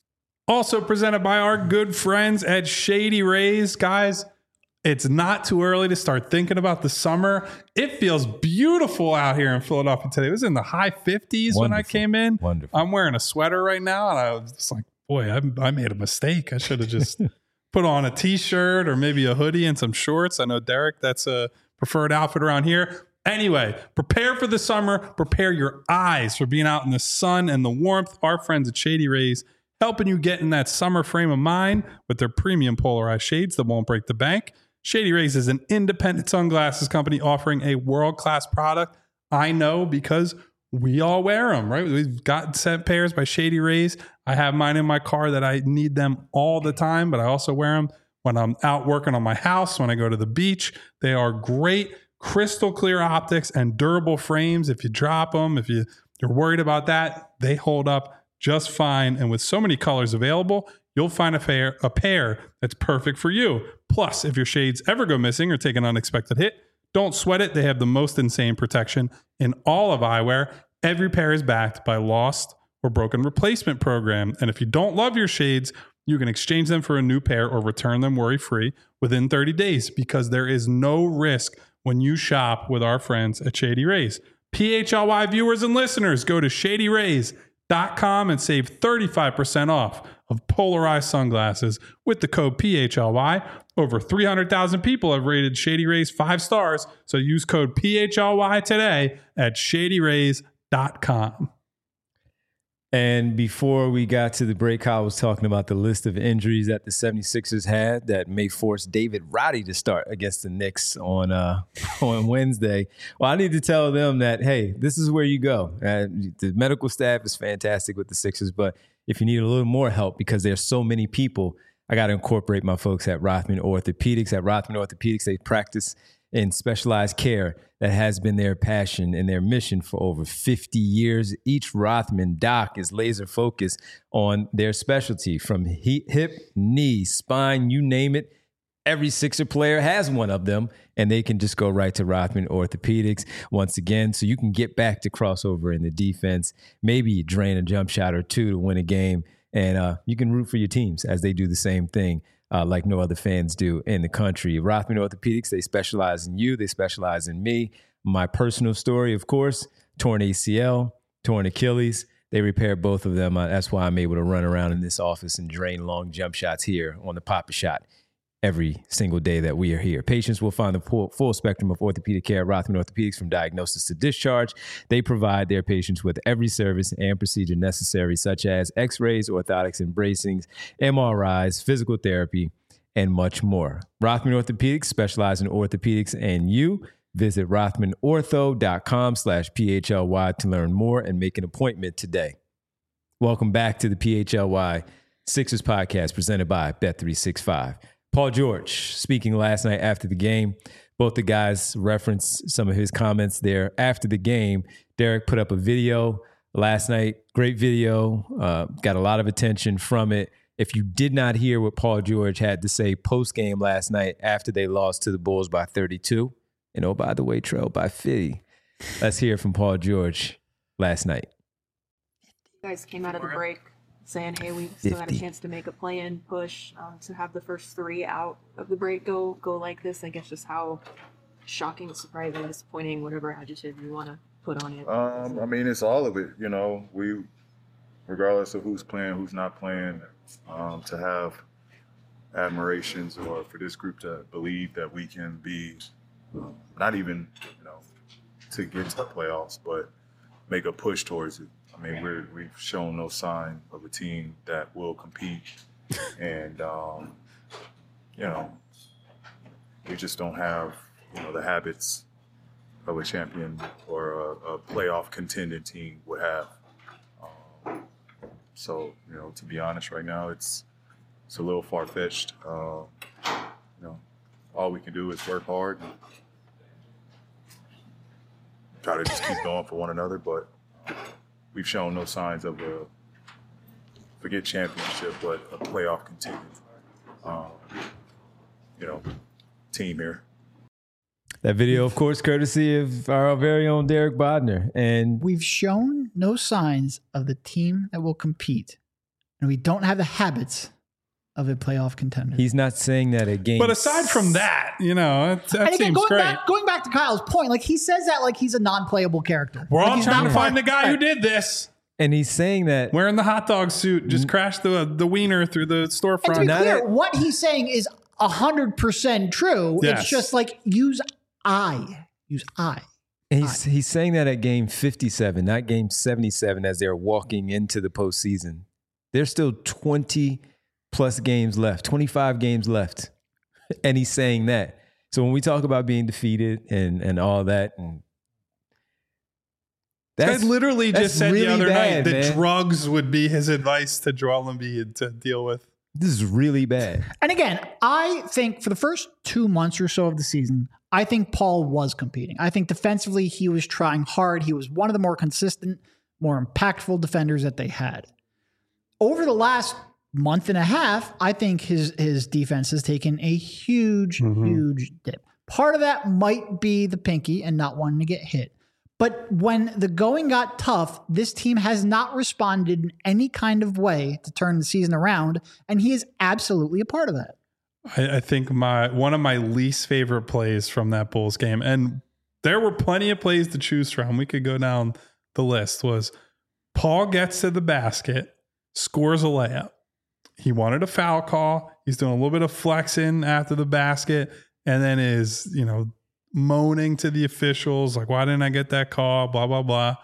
Also presented by our good friends at Shady Rays. Guys, it's not too early to start thinking about the summer. It feels beautiful out here in Philadelphia today. It was in the high 50s when I came in. Wonderful. I'm wearing a sweater right now, and I was just like, boy, I made a mistake. I should have just put on a T-shirt or maybe a hoodie and some shorts. I know, Derek, that's a preferred outfit around here. Anyway, prepare for the summer. Prepare your eyes for being out in the sun and the warmth. Our friends at Shady Rays helping you get in that summer frame of mind with their premium polarized shades that won't break the bank. Shady Rays is an independent sunglasses company offering a world-class product. I know because we all wear them, right? We've got set pairs by Shady Rays. I have mine in my car that I need them all the time, but I also wear them when I'm out working on my house, when I go to the beach. They are great, crystal clear optics and durable frames. If you drop them, if you're worried about that, they hold up just fine. And with so many colors available, you'll find a pair that's perfect for you. Plus, if your shades ever go missing or take an unexpected hit, don't sweat it. They have the most insane protection in all of eyewear. Every pair is backed by lost or broken replacement program. And if you don't love your shades, you can exchange them for a new pair or return them worry-free within 30 days because there is no risk when you shop with our friends at Shady Rays. PHLY viewers and listeners, go to shadyrays.com and save 35% off of polarized sunglasses with the code PHLY. Over 300,000 people have rated Shady Rays 5 stars, so use code PHLY today at shadyrays.com. And before we got to the break, Kyle was talking about the list of injuries that the 76ers had that may force David Roddy to start against the Knicks on Wednesday. Well, I need to tell them that, hey, this is where you go. The medical staff is fantastic with the Sixers, but if you need a little more help because there's so many people, I got to incorporate my folks at Rothman Orthopedics. At Rothman Orthopedics, they practice in specialized care that has been their passion and their mission for over 50 years. Each Rothman doc is laser focused on their specialty, from hip, knee, spine, you name it. Every Sixer player has one of them, and they can just go right to Rothman Orthopedics once again, so you can get back to crossover in the defense. Maybe you drain a jump shot or two to win a game, and you can root for your teams as they do the same thing. Like no other fans do in the country. Rothman Orthopedics, they specialize in you. They specialize in me. My personal story, of course, torn ACL, torn Achilles. They repair both of them. That's why I'm able to run around in this office and drain long jump shots here on the Pop-A-Shot every single day that we are here. Patients will find the full spectrum of orthopedic care at Rothman Orthopedics, from diagnosis to discharge. They provide their patients with every service and procedure necessary, such as x-rays, orthotics and bracings, MRIs, physical therapy, and much more. Rothman Orthopedics specialize in orthopedics and you. Visit rothmanortho.com/PHLY to learn more and make an appointment today. Welcome back to the PHLY Sixers podcast presented by Bet365. Paul George speaking last night after the game. Both the guys referenced some of his comments there after the game. Derek put up a video last night. Great video. Got a lot of attention from it. If you did not hear what Paul George had to say post-game last night after they lost to the Bulls by 32, and oh, by the way, trailed by 50, let's hear from Paul George last night. You guys came out of the break saying, hey, we still got a chance to make a play-in push, to have the first three out of the break go like this. I guess just how shocking, surprising, disappointing, whatever adjective you want to put on it. I mean, it's all of it. You know, we, regardless of who's playing, who's not playing, to have admirations, or for this group to believe that we can be not even, to get to the playoffs, but make a push towards it. I mean, we've shown no sign of a team that will compete, and we just don't have the habits of a champion or a playoff contending team would have. So to be honest, right now it's a little far fetched. All we can do is work hard and try to just keep going for one another, but we've shown no signs of forget championship, but a playoff contending, team here. That video, of course, courtesy of our very own Derek Bodner. And we've shown no signs of the team that will compete, and we don't have the habits of a playoff contender. He's not saying that at game. But aside from that, that seems great. Going back to Kyle's point, like he says that like he's a non-playable character. We're like all trying to find the guy who did this. And he's saying that wearing the hot dog suit, just crashed the wiener through the storefront. And to be clear, what he's saying is 100% true. Yes. It's just like use I. And he's saying that at game 57, not game 77, as they're walking into the postseason. There's still 20 plus games left, 25 games left. And he's saying that. So when we talk about being defeated and all that, and that's literally just said really the other bad, night that drugs would be his advice to Joel Embiid to deal with. This is really bad. And again, I think for the first 2 months or so of the season, I think Paul was competing. I think defensively, he was trying hard. He was one of the more consistent, more impactful defenders that they had. Over the last month and a half, I think his defense has taken a huge dip. Part of that might be the pinky and not wanting to get hit. But when the going got tough, this team has not responded in any kind of way to turn the season around, and he is absolutely a part of that. I think one of my least favorite plays from that Bulls game, and there were plenty of plays to choose from, we could go down the list, was Paul gets to the basket, scores a layup. He wanted a foul call. He's doing a little bit of flexing after the basket, and then is, moaning to the officials, like, why didn't I get that call? Blah, blah, blah.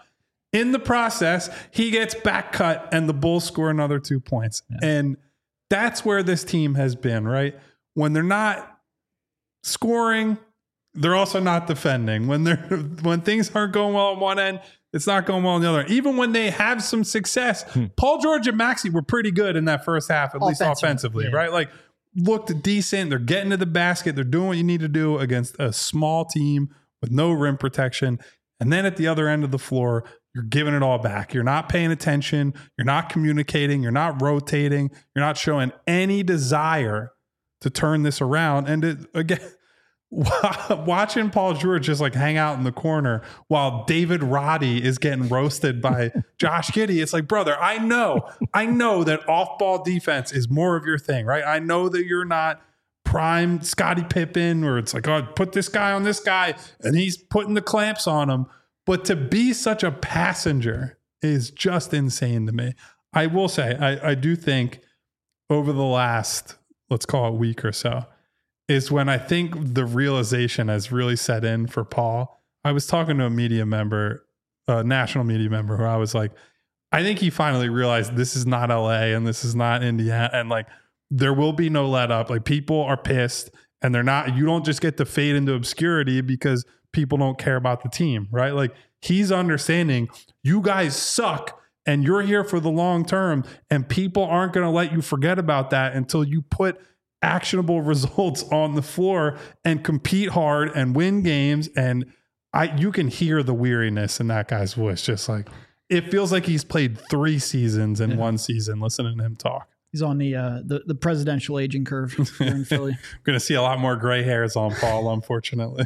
In the process, he gets back cut and the Bulls score another 2 points. Yeah. And that's where this team has been, right? When they're not scoring, they're also not defending. When things aren't going well on one end, it's not going well on the other. Even when they have some success, Paul George and Maxey were pretty good in that first half, at least offensively, right? Like, looked decent. They're getting to the basket. They're doing what you need to do against a small team with no rim protection. And then at the other end of the floor, you're giving it all back. You're not paying attention. You're not communicating. You're not rotating. You're not showing any desire to turn this around. And again, watching Paul George just like hang out in the corner while David Roddy is getting roasted by Josh Giddey. It's like, brother, I know that off-ball defense is more of your thing, right? I know that you're not prime Scottie Pippen, or it's like, oh, put this guy on this guy and he's putting the clamps on him. But to be such a passenger is just insane to me. I will say, I do think over the last, let's call it week or so, is when I think the realization has really set in for Paul. I was talking to a media member, a national media member, who I was like, I think he finally realized this is not LA and this is not Indiana. And like, there will be no let up. Like, people are pissed and you don't just get to fade into obscurity because people don't care about the team, right? Like, he's understanding you guys suck and you're here for the long term, and people aren't going to let you forget about that until you put actionable results on the floor and compete hard and win games. And you can hear the weariness in that guy's voice. Just like, it feels like he's played 3 seasons in one season listening to him talk. He's on the presidential aging curve here in Philly. We're going to see a lot more gray hairs on Paul, unfortunately.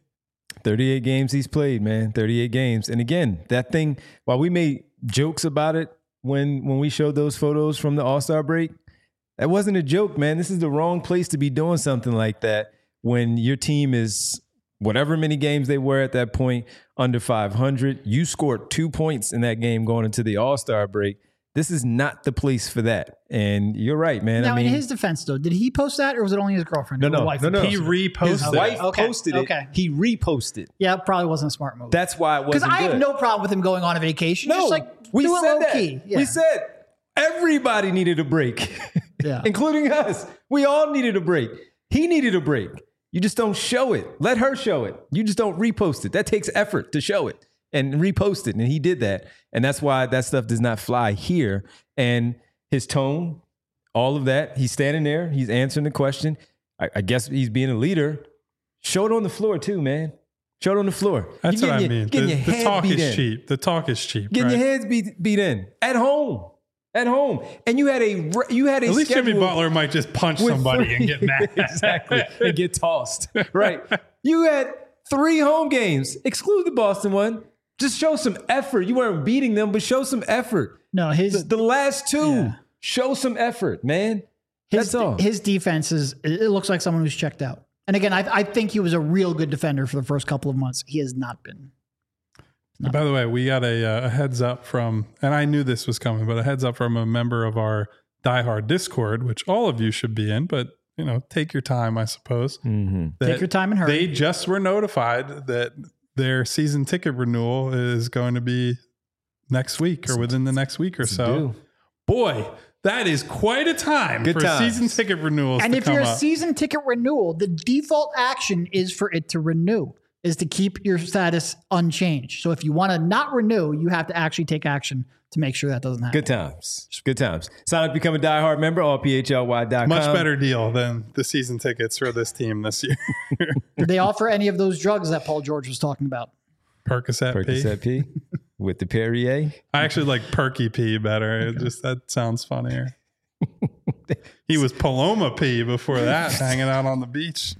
38 games he's played, man. 38 games. And again, that thing, while we made jokes about it when we showed those photos from the All-Star break, that wasn't a joke, man. This is the wrong place to be doing something like that when your team is whatever many games they were at that point, under 500. You scored 2 points in that game going into the All-Star break. This is not the place for that. And you're right, man. Now, in his defense, though, did he post that or was it only his girlfriend? No. He reposted His wife posted it. Okay. He reposted. Yeah, it probably wasn't a smart move. That's why it wasn't good. Because I have no problem with him going on a vacation. No, just like we do it said low that. key. Yeah. We said everybody needed a break, including us. We all needed a break. He needed a break. You just don't show it. Let her show it. You just don't repost it. That takes effort to show it and repost it. And he did that. And that's why that stuff does not fly here. And his tone, all of that, he's standing there. He's answering the question. I guess he's being a leader. Show it on the floor too, man. Show it on the floor. That's what I mean. The talk is cheap. The talk is cheap. Getting your heads beat in at home. At home, and you had a at least Jimmy Butler might just punch somebody and get mad. Exactly, and get tossed. Right. You had 3 home games, exclude the Boston one. Just show some effort. You weren't beating them, but show some effort. No, the last 2. Show some effort, man. That's all. His defense it looks like someone who's checked out. And again, I think he was a real good defender for the first couple of months. He has not been. By the way, we got a heads up from, and I knew this was coming, but a heads up from a member of our diehard Discord, which all of you should be in, but take your time, I suppose. Mm-hmm. Take your time and hurry. They just were notified that their season ticket renewal is going to be next week or within the next week or so. Boy, that is quite a time for season ticket renewals. And if you're a season ticket renewal, the default action is for it to renew. Is to keep your status unchanged. So if you want to not renew, you have to actually take action to make sure that doesn't happen. Good times. Good times. Sign up to become a diehard member, allphly.com. Much better deal than the season tickets for this team this year. Did they offer any of those drugs that Paul George was talking about? Percocet P with the Perrier. I actually like Perky P better. Okay. That sounds funnier. He was Paloma P before that, hanging out on the beach.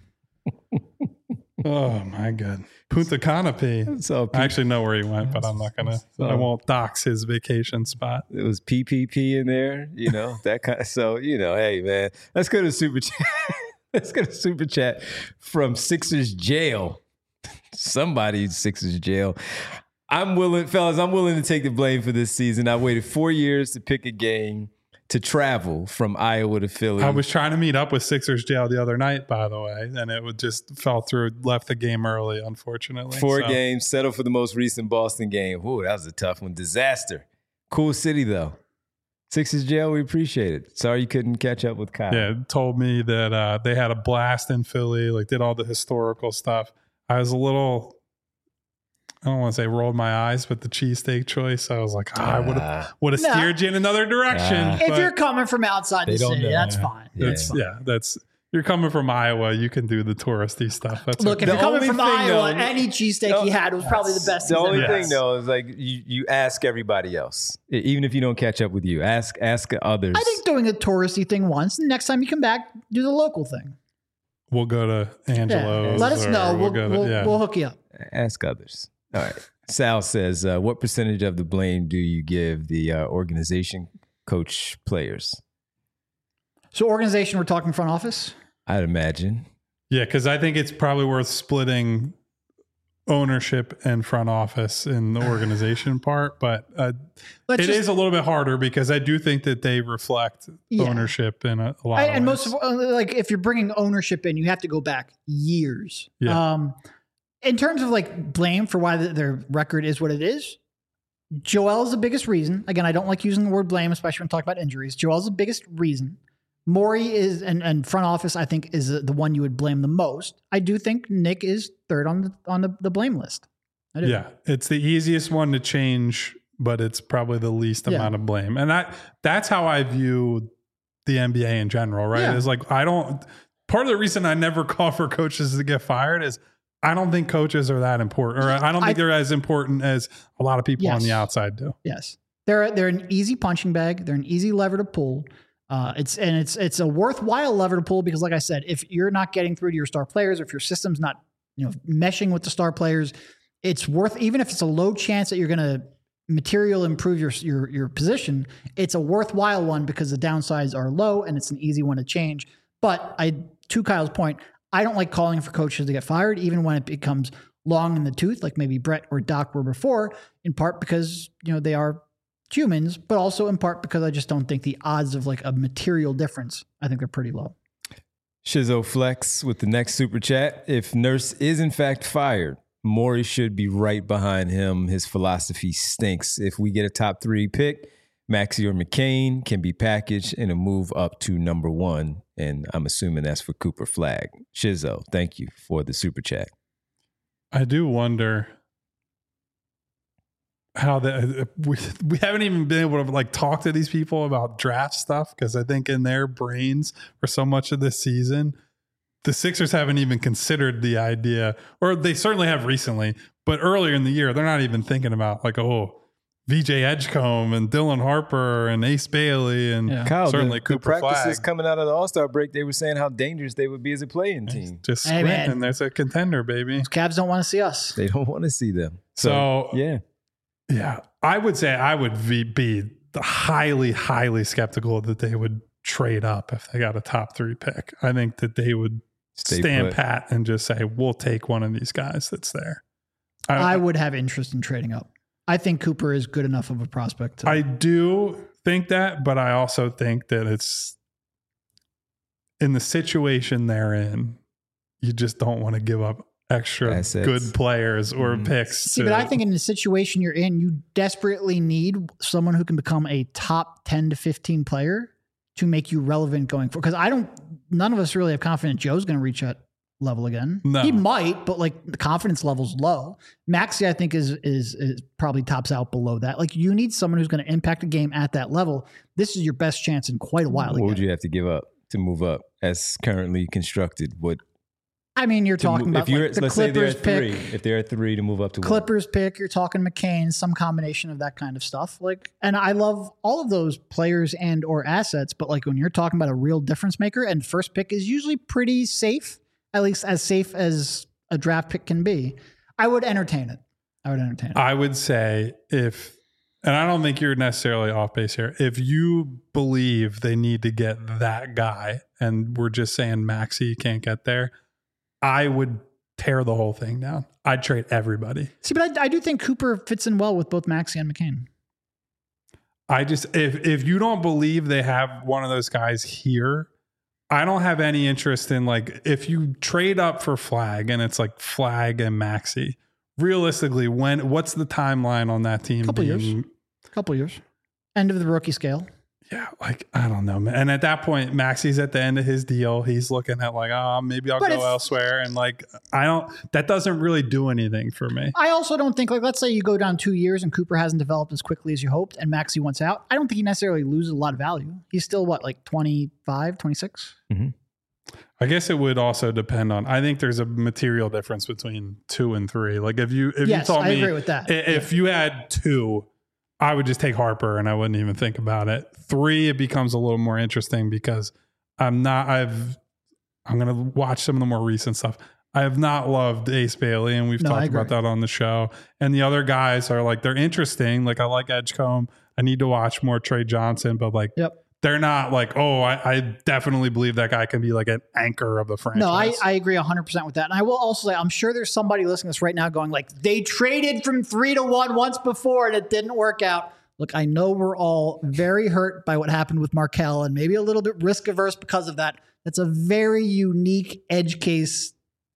Oh my God. Punta Cana P. I actually know where he went, but I'm not gonna. I won't dox his vacation spot. It was PPP in there, that kind of. So hey man, let's go to super chat. Let's go to super chat from Sixers jail. Somebody's Sixers jail. I'm willing to take the blame for this season. I waited 4 years to pick a game to travel from Iowa to Philly. I was trying to meet up with Sixers jail the other night, by the way, and it just fell through. Left the game early, unfortunately. 4 games, settled for the most recent Boston game. Ooh, that was a tough one. Disaster. Cool city, though. Sixers jail, we appreciate it. Sorry you couldn't catch up with Kyle. Yeah, told me that they had a blast in Philly, like did all the historical stuff. I was a little, I don't want to say rolled my eyes, but the cheesesteak choice, I was like, I would have steered you in another direction. If you're coming from outside the city, that's fine. That's you're coming from Iowa, you can do the touristy stuff. That's Look, okay. if you're coming from Iowa, though, any cheesesteak he had was probably the best. The he's only ever thing had. though is like you ask everybody else, even if you don't catch up with you, ask others. I think doing a touristy thing once, and next time you come back, do the local thing. We'll go to Angelo's. Let us know. We'll hook you up. Ask others. All right. Sal says, what percentage of the blame do you give the organization, coach, players? So organization, we're talking front office? I'd imagine. Yeah, because I think it's probably worth splitting ownership and front office in the organization part, but it is a little bit harder because I do think that they reflect ownership in a lot of ways. And most of, like, if you're bringing ownership in, you have to go back years. Yeah. In terms of like blame for why their record is what it is, Joel is the biggest reason. Again, I don't like using the word blame, especially when talking about injuries. Joel's the biggest reason. Morey is, and front office, I think, is the one you would blame the most. I do think Nick is third on the blame list. I do. Yeah, it's the easiest one to change, but it's probably the least amount of blame. And that's how I view the NBA in general, right? Yeah. It's like, part of the reason I never call for coaches to get fired is I don't think coaches are that important, or I don't think they're as important as a lot of people on the outside do. Yes. They're an easy punching bag. They're an easy lever to pull. It's a worthwhile lever to pull because, like I said, if you're not getting through to your star players, or if your system's not, meshing with the star players, it's worth, even if it's a low chance that you're going to material improve your position, it's a worthwhile one because the downsides are low and it's an easy one to change. But to Kyle's point, I don't like calling for coaches to get fired, even when it becomes long in the tooth, like maybe Brett or Doc were before, in part because, they are humans, but also in part because I just don't think the odds of like a material difference, I think they're pretty low. Shizzo Flex with the next super chat. If Nurse is in fact fired, Morey should be right behind him. His philosophy stinks. If we get a top 3 pick, Maxey or McCain can be packaged in a move up to number 1. And I'm assuming that's for Cooper Flag. Shizzo, thank you for the super chat. I do wonder how we haven't even been able to like talk to these people about draft stuff, because I think in their brains for so much of this season, the Sixers haven't even considered the idea, or they certainly have recently, but earlier in the year, they're not even thinking about like, VJ Edgecombe and Dylan Harper and Ace Bailey and Kyle, certainly Cooper the practices Flag. coming out of the All-Star break, they were saying how dangerous they would be as a play-in team. Just squint and there's a contender, baby. Cavs don't want to see us. They don't want to see them. So yeah, I would say I would be highly, highly skeptical that they would trade up if they got a top 3 pick. I think that they would stand pat and just say, we'll take one of these guys that's there. I would have interest in trading up. I think Cooper is good enough of a prospect. I do think that, but I also think that it's in the situation they're in, you just don't want to give up extra assets, good players or picks. See, but I think in the situation you're in, you desperately need someone who can become a top 10 to 15 player to make you relevant going forward. Because none of us really have confidence Joe's going to reach that level again. No. He might, but like the confidence level's low. Maxey, I think, is probably tops out below that. Like, you need someone who's going to impact a game at that level. This is your best chance in quite a while. What would you have to give up to move up as currently constructed? You're talking about the Clippers pick. If they're at 3 to move up to Clippers pick, you're talking McCain, some combination of that kind of stuff. And I love all of those players and or assets, but like when you're talking about a real difference maker, and first pick is usually pretty safe, at least as safe as a draft pick can be, I would entertain it. I would say and I don't think you're necessarily off base here, if you believe they need to get that guy and we're just saying Maxey can't get there, I would tear the whole thing down. I'd trade everybody. See, but I do think Cooper fits in well with both Maxey and McCain. if you don't believe they have one of those guys here, I don't have any interest in, like, if you trade up for Flag and it's like Flag and Maxey, realistically, what's the timeline on that team? Couple years. End of the rookie scale. Yeah, like, I don't know, man. And at that point, Maxey's at the end of his deal. He's looking at like, maybe I'll go elsewhere. And like, that doesn't really do anything for me. I also don't think, like, let's say you go down 2 years and Cooper hasn't developed as quickly as you hoped and Maxey wants out. I don't think he necessarily loses a lot of value. He's still like 25, 26? Mm-hmm. I guess it would also depend on, I think there's a material difference between 2 and 3. Like if you told me, I agree with that. If you had 2, I would just take Harper and I wouldn't even think about it. 3, it becomes a little more interesting because I'm going to watch some of the more recent stuff. I have not loved Ace Bailey, and we've talked about that on the show. And the other guys are like, they're interesting. Like I like Edgecombe. I need to watch more Trey Johnson, but like, they're not like, I definitely believe that guy can be like an anchor of the franchise. No, I agree 100% with that. And I will also say, I'm sure there's somebody listening to this right now going like, they traded from 3 to 1 once before and it didn't work out. Look, I know we're all very hurt by what happened with Markelle and maybe a little bit risk averse because of that. That's a very unique edge case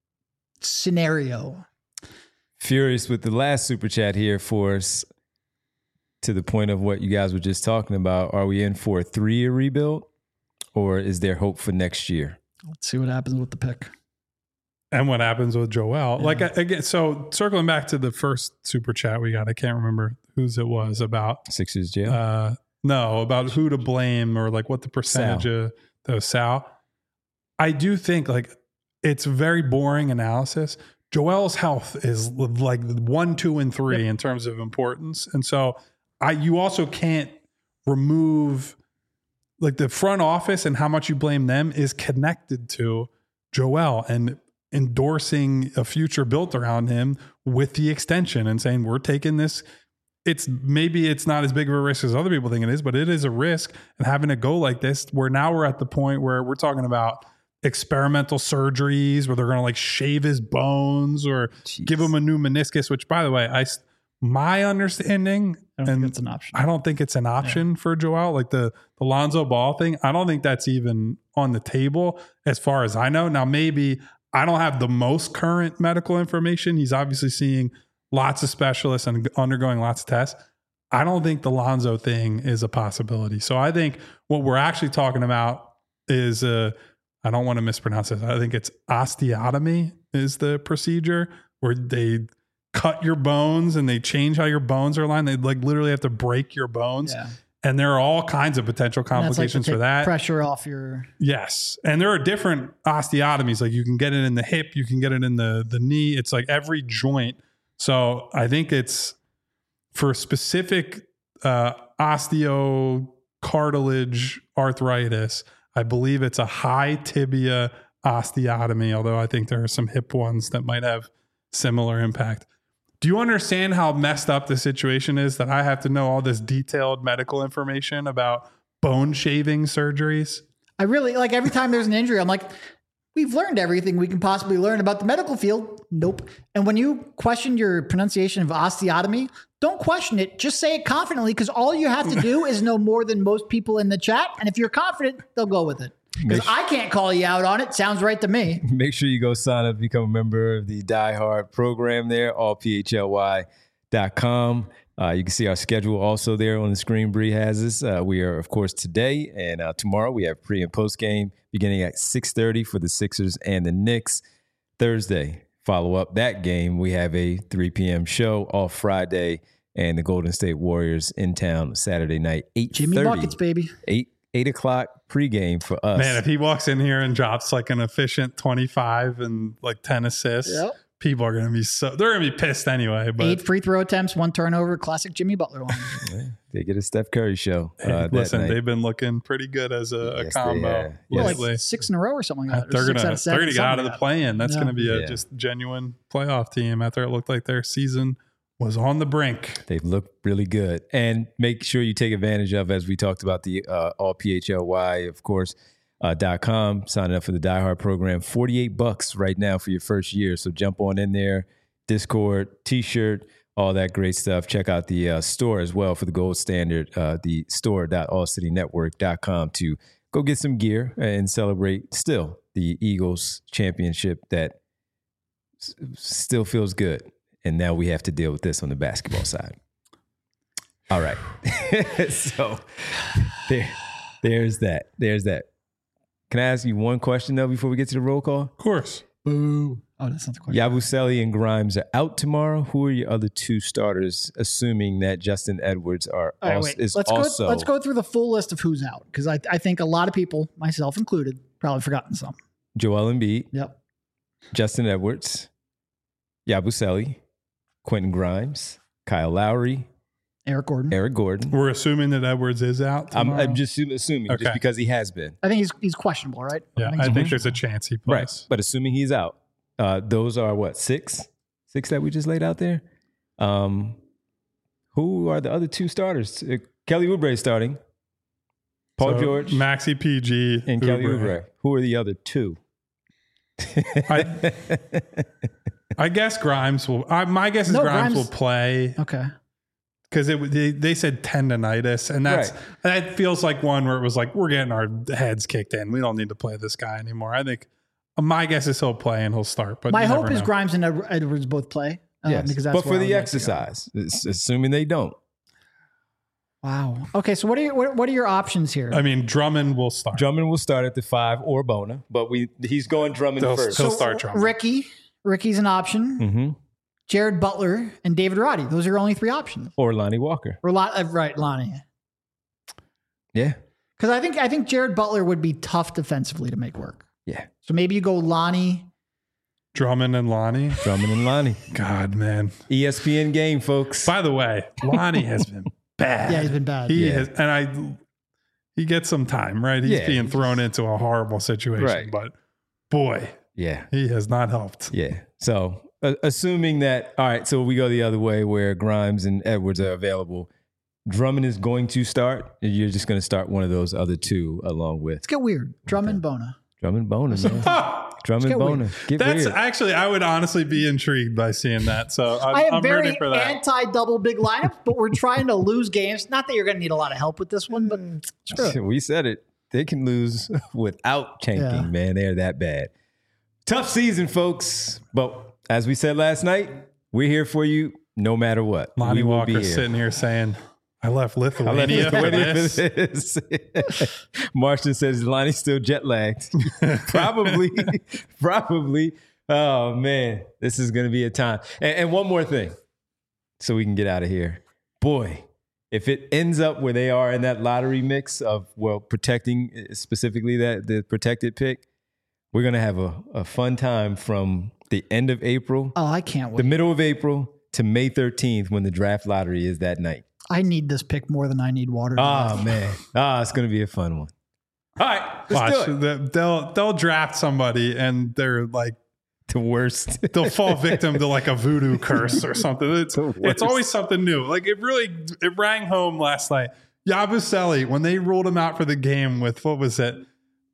scenario. Furious with the last super chat here for us. To the point of what you guys were just talking about, are we in for a 3-year rebuild or is there hope for next year? Let's see what happens with the pick. And what happens with Joel. Yeah. Like, again, so circling back to the first super chat we got, I can't remember whose it was about. Sixers jail? No, about who to blame or like what the percentage of those Sal. I do think like it's very boring analysis. Joel's health is like 1, 2, and 3 in terms of importance. And so you also can't remove like the front office and how much you blame them is connected to Joel and endorsing a future built around him with the extension and saying, we're taking this. Maybe it's not as big of a risk as other people think it is, but it is a risk. And having to go like this, where now we're at the point where we're talking about experimental surgeries where they're going to like shave his bones or give him a new meniscus, which by the way, my understanding, I don't think it's an option. I don't think it's an option for Joel. Like the Lonzo Ball thing, I don't think that's even on the table as far as I know. Now, maybe I don't have the most current medical information. He's obviously seeing lots of specialists and undergoing lots of tests. I don't think the Lonzo thing is a possibility. So I think what we're actually talking about is, I don't want to mispronounce this. I think it's osteotomy is the procedure where they cut your bones and they change how your bones are aligned. They like literally have to break your bones. Yeah. And there are all kinds of potential complications for that. Pressure off your... Yes. And there are different osteotomies. Like you can get it in the hip, you can get it in the knee. It's like every joint. So I think it's for specific osteocartilage arthritis. I believe it's a high tibia osteotomy, although I think there are some hip ones that might have similar impact. Do you understand how messed up the situation is that I have to know all this detailed medical information about bone shaving surgeries? I really, like every time there's an injury, I'm like, we've learned everything we can possibly learn about the medical field. Nope. And when you question your pronunciation of osteotomy, don't question it. Just say it confidently because all you have to do is know more than most people in the chat. And if you're confident, they'll go with it. Because I can't call you out on it. Sounds right to me. Make sure you go sign up, become a member of the Die Hard program there, allphly.com. You can see our schedule also there on the screen. Bree has us. We are, of course, today and tomorrow. We have pre and post game beginning at 6:30 for the Sixers and the Knicks. Thursday, follow up that game. We have a 3 p.m. show off Friday and the Golden State Warriors in town Saturday night, 8:30. Jimmy Buckets, baby. 8 o'clock pregame for us. Man, if he walks in here and drops like an efficient 25 and like 10 assists, people are going to be they're going to be pissed anyway. But 8 free throw attempts, 1 turnover, classic Jimmy Butler line. They get a Steph Curry show. Listen, they've been looking pretty good as a combo lately. Like 6 in a row or something like that. They're going to get out of the play-in. That's going to be a just genuine playoff team after it looked like their season was on the brink. They've looked really good. And make sure you take advantage of, as we talked about, the allphly, of course, .com. Signing up for the Die Hard program. $48 right now for your first year. So jump on in there. Discord, T-shirt, all that great stuff. Check out the store as well for the gold standard, the store.allcitynetwork.com to go get some gear and celebrate still the Eagles championship that still feels good. And now we have to deal with this on the basketball side. All right. So there's that. There's that. Can I ask you one question, though, before we get to the roll call? Of course. Boo. Oh, that's not the question. Yabusele and Grimes are out tomorrow. Who are your other two starters, assuming that Justin Edwards are All right, also, wait. is Let's also... let's go through the full list of who's out, because I think a lot of people, myself included, probably forgotten some. Joel Embiid, Yep. Justin Edwards, Yabusele, Quentin Grimes, Kyle Lowry, Eric Gordon. We're assuming that Edwards is out I'm tomorrow? just assuming, Okay. just because he has been. I think he's questionable, right? Yeah, I think there's a chance he Right. plays. But assuming he's out, those are what, six that we just laid out there? Who are the other two starters? Kelly Oubre starting. Paul So, George Maxi PG, and Kelly Oubre. Oubre. Who are the other two? I guess Grimes will. My guess is No, Grimes will Grimes- play Okay. because they said tendonitis, and that feels like one where it was like we're getting our heads kicked in. We don't need to play this guy anymore. I think my guess is he'll play and he'll start. But My you hope never is know. Grimes and Edwards both play. Yes, Because that's but where for I the would like to go. exercise, assuming they don't. Wow. Okay, so what are your options here? I mean, Drummond will start. Drummond will start at the 5 or Bona, but he's going Drummond He'll first. start Drummond. Ricky's an option. Mm-hmm. Jared Butler and David Roddy. Those are your only three options. Or Lonnie Walker. Or right, Lonnie. Yeah. Because I think Jared Butler would be tough defensively to make work. Yeah. So maybe you go Lonnie. Drummond and Lonnie. Drummond and Lonnie. God, man. ESPN game, folks. By the way, Lonnie has been bad. Yeah, he's been bad. He has, and he gets some time, right? He's Yeah. being thrown into a horrible situation, Right. but boy, Yeah. he has not helped. Yeah. So assuming that, all right, so we go the other way where Grimes and Edwards are available. Drummond is going to start. You're just going to start one of those other two along with Let's get weird. Drummond Bona. Drummond Bona, man. Drummond get Bona. weird. Get That's weird. actually, I would honestly be intrigued by seeing that. So I am I'm very rooting for that. anti-double big lineups, but we're trying to lose games. Not that you're going to need a lot of help with this one, but screw it. We said it. They can lose without tanking, Yeah. man. They're that bad. Tough season, folks. But as we said last night, we're here for you no matter what. Lonnie we will Walker be here. sitting here saying, I left I left Lithuania, Lithuania for this. for this. Martian says Lonnie's still jet lagged. Probably. Oh man, this is going to be a time. And one more thing, so we can get out of here. Boy, if it ends up where they are in that lottery mix of protecting specifically the protected pick, we're going to have a fun time from the end of April, Oh, I can't the wait. middle of April to May 13th when the draft lottery is that night. I need this pick more than I need water. Oh man. It's gonna be a fun one. All right, let's Watch, do it. they'll draft somebody and they're like, The worst. they'll fall victim to like a voodoo curse or something. It's worst. always something new. Like it rang home last night. Yabusele, when they ruled him out for the game with, what was it?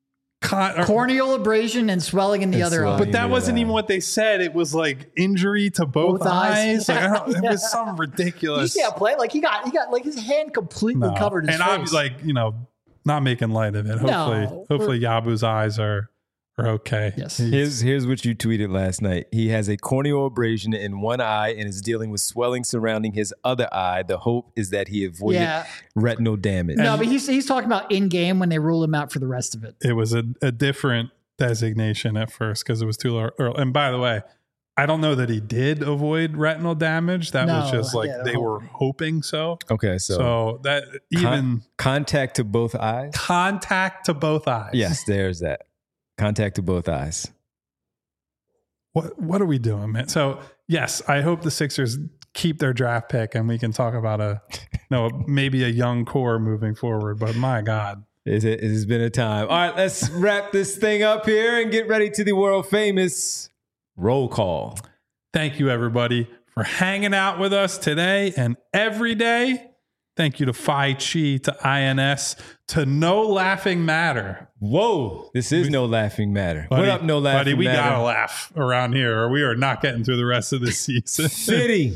Corneal abrasion and swelling in the And other eye. swelling. But that wasn't even what they said. It was like injury to both Both eyes. eyes. Like, it Yeah. was some Did you ridiculous. see how play? Like he got like his hand completely No. covered his and face. I'm like, not making light of it. Hopefully Yabu's eyes are okay. Yes. Here's what you tweeted last night. He has a corneal abrasion in one eye and is dealing with swelling surrounding his other eye. The hope is that he avoided Yeah. retinal damage. No, but he's talking about in game when they rule him out for the rest of it. It was a different designation at first because it was too early. And by the way, I don't know that he did avoid retinal damage. That was No, just like yeah, they were hoping so. Okay, so So that even contact to both eyes. contact to both eyes. Yes, there's that. Contact to both eyes. What are we doing, man? So yes, I hope the Sixers keep their draft pick and we can talk about maybe a young core moving forward. But my God. It has been a time. All right, let's wrap this thing up here and get ready to the world famous roll call. Thank you, everybody, for hanging out with us today and every day. Thank you to Phi Chi, to INS, to No Laughing Matter. Whoa, this is No Laughing Matter. Buddy, What up, No Laughing buddy, we Matter? gotta laugh around here or we are not getting through the rest of this season. Fitty.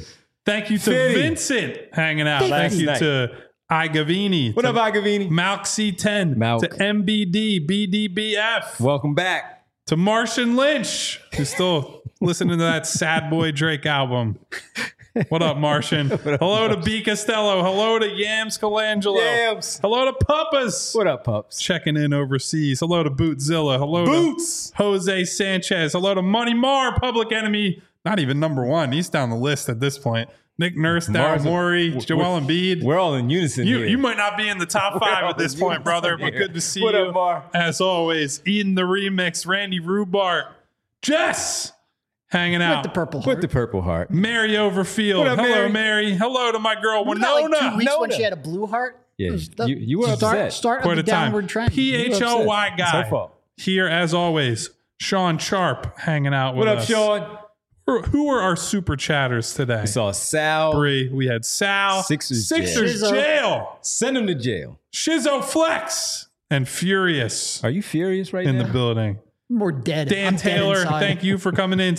Thank you to Fitty. Vincent hanging out. Thank Thank you you. to Igavini. What up, Agavini? Malk C10. Malk. To MBD, BDBF. Welcome back. To Martian Lynch, who's still listening to that Sad Boy Drake album. What up, Martian? Hello to B. Costello. Hello to Yams Colangelo. Yams. Hello to Puppas. What up, pups? Checking in overseas. Hello to Bootzilla. Hello Boots. to Jose Sanchez. Hello to Money Marr, Public Enemy. Not even number one. He's down the list at this point. Nick Nurse, Daryl Mar's a- Morey, Joel Embiid. We're all in unison here. You might not be in the top five at this all in point, brother, but unison good here. to see What you. up, Mar? As always, Eden the Remix, Randy Rubart, Jess hanging out. With the Purple Heart. With the Purple Heart. Mary Overfield. What up, Hello, Mary? Mary. Hello to my girl, Wasn't that like 2 Winona. weeks when Nona. she had a blue heart? Yeah, It was the you were upset. Start Quite of a the time. downward trend. PHLY It's her guy. fault. Here, as always, Sean Sharp hanging out with What up, us. Sean? Who were our super chatters today? We saw Sal. Bree. We had Sal. Sixers jail. jail. Send him to jail. Shizzo Flex. And Furious Are you furious right in now? the building. More dead. Dan I'm dead Taylor, inside. thank you for coming in.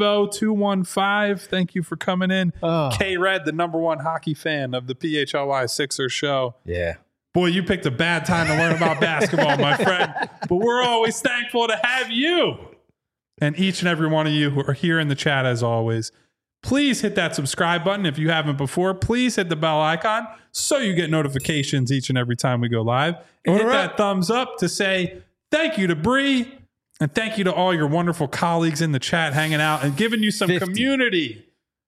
Steve-O215, thank you for coming in. Oh. K-Red, the number one hockey fan of the PHLY Sixers show. Yeah. Boy, you picked a bad time to learn about basketball, my friend. But we're always thankful to have you. And each and every one of you who are here in the chat, as always, please hit that subscribe button if you haven't before. Please hit the bell icon so you get notifications each and every time we go live. And hit that thumbs up to say thank you to Bree. And thank you to all your wonderful colleagues in the chat hanging out and giving you some 50. community.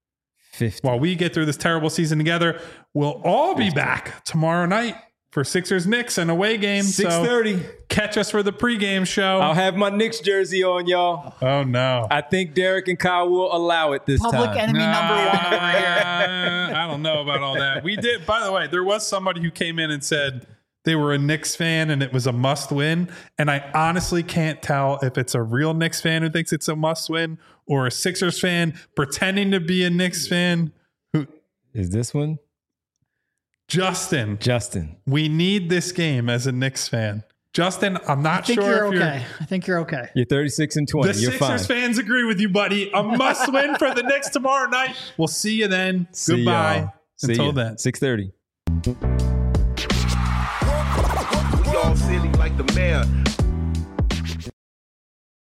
50. While we get through this terrible season together, we'll all be back tomorrow night for Sixers Knicks, an away game. 6:30. So catch us for the pregame show. I'll have my Knicks jersey on, y'all. Oh, no. I think Derek and Kyle will allow it this Public time. enemy number one over here. I don't know about all that. We did, by the way, there was somebody who came in and said they were a Knicks fan and it was a must win. And I honestly can't tell if it's a real Knicks fan who thinks it's a must win or a Sixers fan pretending to be a Knicks fan. Is this one? Justin, we need this game as a Knicks fan. Justin, I'm I not think sure you're if okay. I think you're okay. You're 36 and 20. The You're Sixers fine. fans agree with you, buddy. A must win for the Knicks tomorrow night. We'll see you then. See Goodbye. y'all. See Until ya. then. 6:30. We all silly like the mayor.